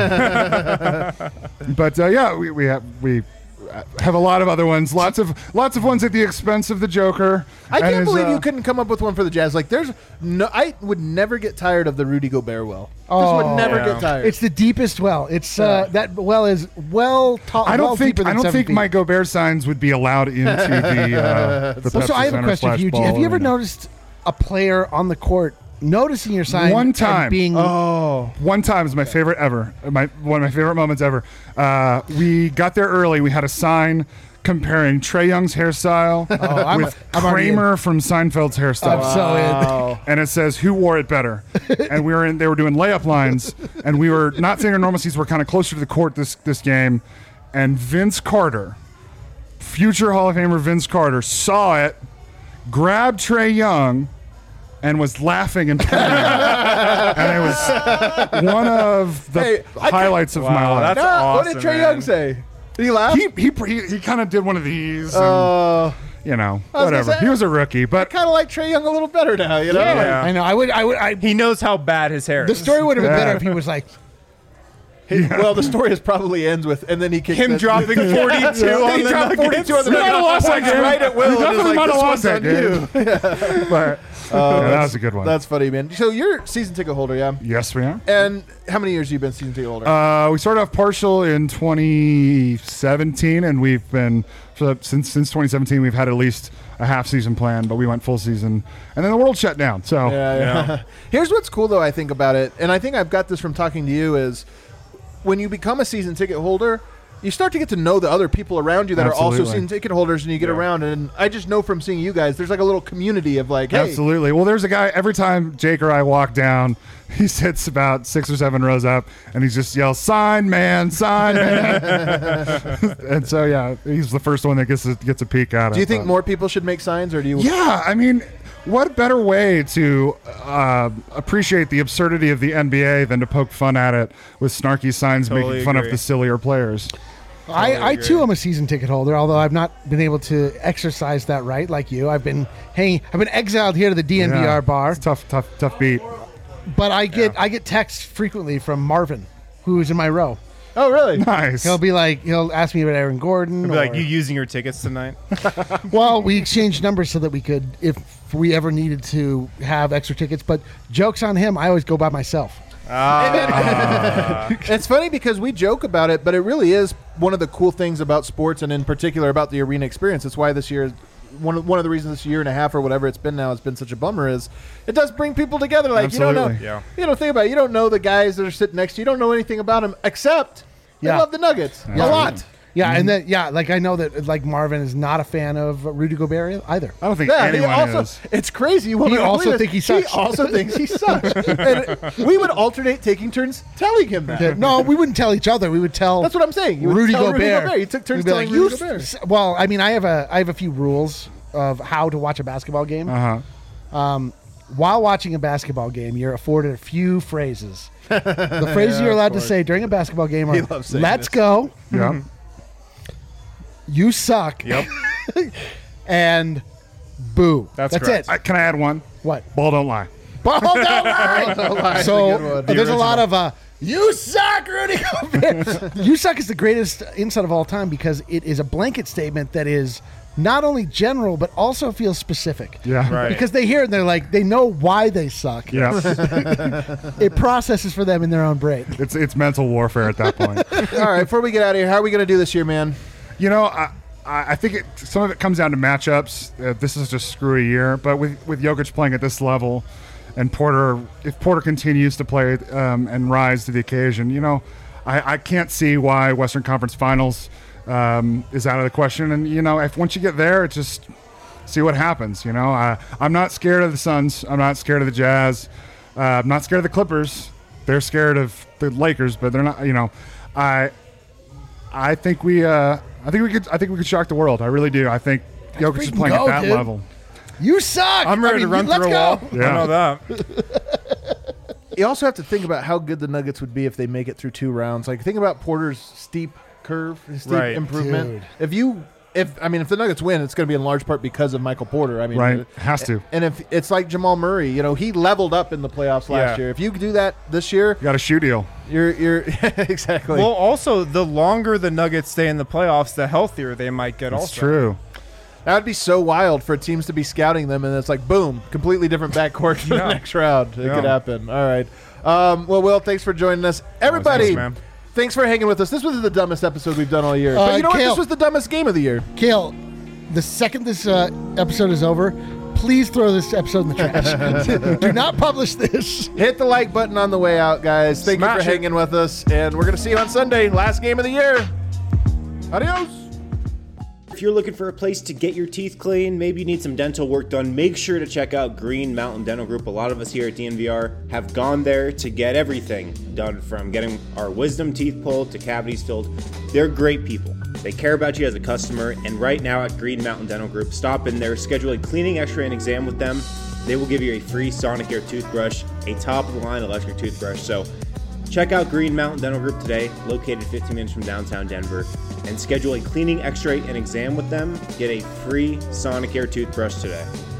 But yeah, we have a lot of other ones. Lots of ones at the expense of the Joker. I And can't his, believe you couldn't come up with one for the Jazz. Like, I would never get tired of the Rudy Gobert well. Just would never get tired. It's the deepest well. It's that well is well tall. I don't well think deeper than 7 think feet. my Gobert signs would be allowed into the So I have a Pepsi question for you. Center Have you ever /ball. noticed a player on the court noticing your sign One and time. being One time is my favorite ever. One of my favorite moments ever. We got there early. We had a sign comparing Trae Young's hairstyle with I'm already Kramer from Seinfeld's hairstyle. I'm so in. And it says, "Who wore it better?" And they were doing layup lines, and we were not saying our normal seats. We're kind of closer to the court this game, and Vince Carter, future Hall of Famer Vince Carter, saw it, grabbed Trae Young, and was laughing and pointing. And it was one of the highlights of my life. That's awesome. What did Trae Young say? Did he laugh? He kind of did one of these. And, you know, whatever. say, He was a rookie, I but kind of like Trae Young a little better now. You know? Yeah. I know. I He knows how bad his hair the is. story would have been Yeah. better if he was like, Well, the story is probably ends with, and then he kicks Him the- dropping 42 on He the dropped Nuggets. 42 on the We might have lost that points game. right at will. We and is definitely like, might have this lost one's that on you. but that was a good one. That's funny, man. So you're season ticket holder, yeah? Yes, we are. And how many years have you been season ticket holder? We started off partial in 2017, and we've been since 2017. We've had at least a half season plan, but we went full season, and then the world shut down. So Yeah. Here's what's cool, though, I think about it, and I think I've got this from talking to you, is when you become a season ticket holder, you start to get to know the other people around you that are also Absolutely. season ticket holders, and you get around. And I just know from seeing you guys, there's like a little community of like, hey, Absolutely. Well, there's a guy, every time Jake or I walk down, he sits about 6 or 7 rows up, and he just yells, "Sign, man, sign, man." And so, yeah, he's the first one that gets a peek at it. do you think but- more people should make signs, or do you? Yeah, I mean, what better way to appreciate the absurdity of the NBA than to poke fun at it with snarky signs Totally making fun agree. of the sillier players? I too am a season ticket holder, although I've not been able to exercise that right like you. I've been exiled here to the DNVR Yeah, bar, it's tough beat. but I get texts frequently from Marvin, who's in my row. Oh, really? Nice. He'll ask me about Aaron Gordon. Be like, or- you using your tickets tonight? Well, we exchanged numbers so that we could, if we ever needed to have extra tickets. But jokes on him, I always go by myself. It's funny because we joke about it, but it really is one of the cool things about sports, and in particular about the arena experience. It's why this year, one of the reasons this year and a half or whatever it's been now has been such a bummer is it does bring people together. Like you don't know, Absolutely. think about it. You don't know the guys that are sitting next to you. You don't know anything about them except they Yeah. love the Nuggets a lot. Yeah, and then like I know that like Marvin is not a fan of Rudy Gobert either. I don't think Yeah, he anyone also, is. it's crazy. You won't He believe also this. think he sucks. He also thinks he sucks. And we would alternate taking turns telling him that. No, we wouldn't tell each other. We would tell. That's what I'm saying. You would Rudy tell Gobert. You took turns We'd be telling like, Rudy "You Gobert. Well, I mean, I have a few rules of how to watch a basketball game. While watching a basketball game, you're afforded a few phrases. The phrases you're allowed to say during a basketball game are He loves saying "Let's this. go," Yeah. "You suck," Yep. and "Boo." That's That's correct. it. Can I add one? What? Ball don't lie. Ball don't lie. So good one. there's a lot of you suck, Rudy Gobert. You suck is the greatest insult of all time because it is a blanket statement that is not only general but also feels specific. Yeah. Right. Because they hear it and they're like, they know why they suck. Yeah. It processes for them in their own brain. It's mental warfare at that point. All right, before we get out of here, how are we going to do this year, man? You know, I think some of it comes down to matchups. This is just screw a year, but with Jokic playing at this level, and if Porter continues to play and rise to the occasion, you know, I can't see why Western Conference Finals is out of the question. And you know, if once you get there, it's just see what happens. You know, I'm not scared of the Suns. I'm not scared of the Jazz. I'm not scared of the Clippers. They're scared of the Lakers, but they're not. You know, I think we could shock the world. I really do. I think Jokic is playing at that dude. level. You suck. I'm ready to run let's through a go. wall. Yeah. I know that. You also have to think about how good the Nuggets would be if they make it through 2 rounds. Like, think about Porter's steep curve, his steep Right. improvement. Dude. If the Nuggets win, it's going to be in large part because of Michael Porter. I mean, Right. Has to. And if it's like Jamal Murray, you know, he leveled up in the playoffs last Yeah. year. If you do that this year, You got a shoe deal. you're exactly. Well, also, the longer the Nuggets stay in the playoffs, the healthier they might get. It's also, true. That would be so wild for teams to be scouting them, and it's like, boom, completely different backcourt for the Yeah. next round. It Yeah. could happen. All right. Well, Will, thanks for joining us. Everybody, Thanks, man. thanks for hanging with us. This was the dumbest episode we've done all year. But you know what? Kale. This was the dumbest game of the year. Kale, the second this episode is over, please throw this episode in the trash. Do not publish this. Hit the like button on the way out, guys. Thank you Smash for it. hanging with us, and we're going to see you on Sunday, last game of the year. Adios. If you're looking for a place to get your teeth clean, maybe you need some dental work done, make sure to check out Green Mountain Dental Group. A lot of us here at DNVR have gone there to get everything done, from getting our wisdom teeth pulled to cavities filled. They're great people. They care about you as a customer, and right now at Green Mountain Dental Group, stop in there, schedule a cleaning, x-ray, and exam with them. They will give you a free Sonicare toothbrush, a top-of-the-line electric toothbrush. So check out Green Mountain Dental Group today, located 15 minutes from downtown Denver, and schedule a cleaning, x-ray, and exam with them. Get a free Sonicare toothbrush today.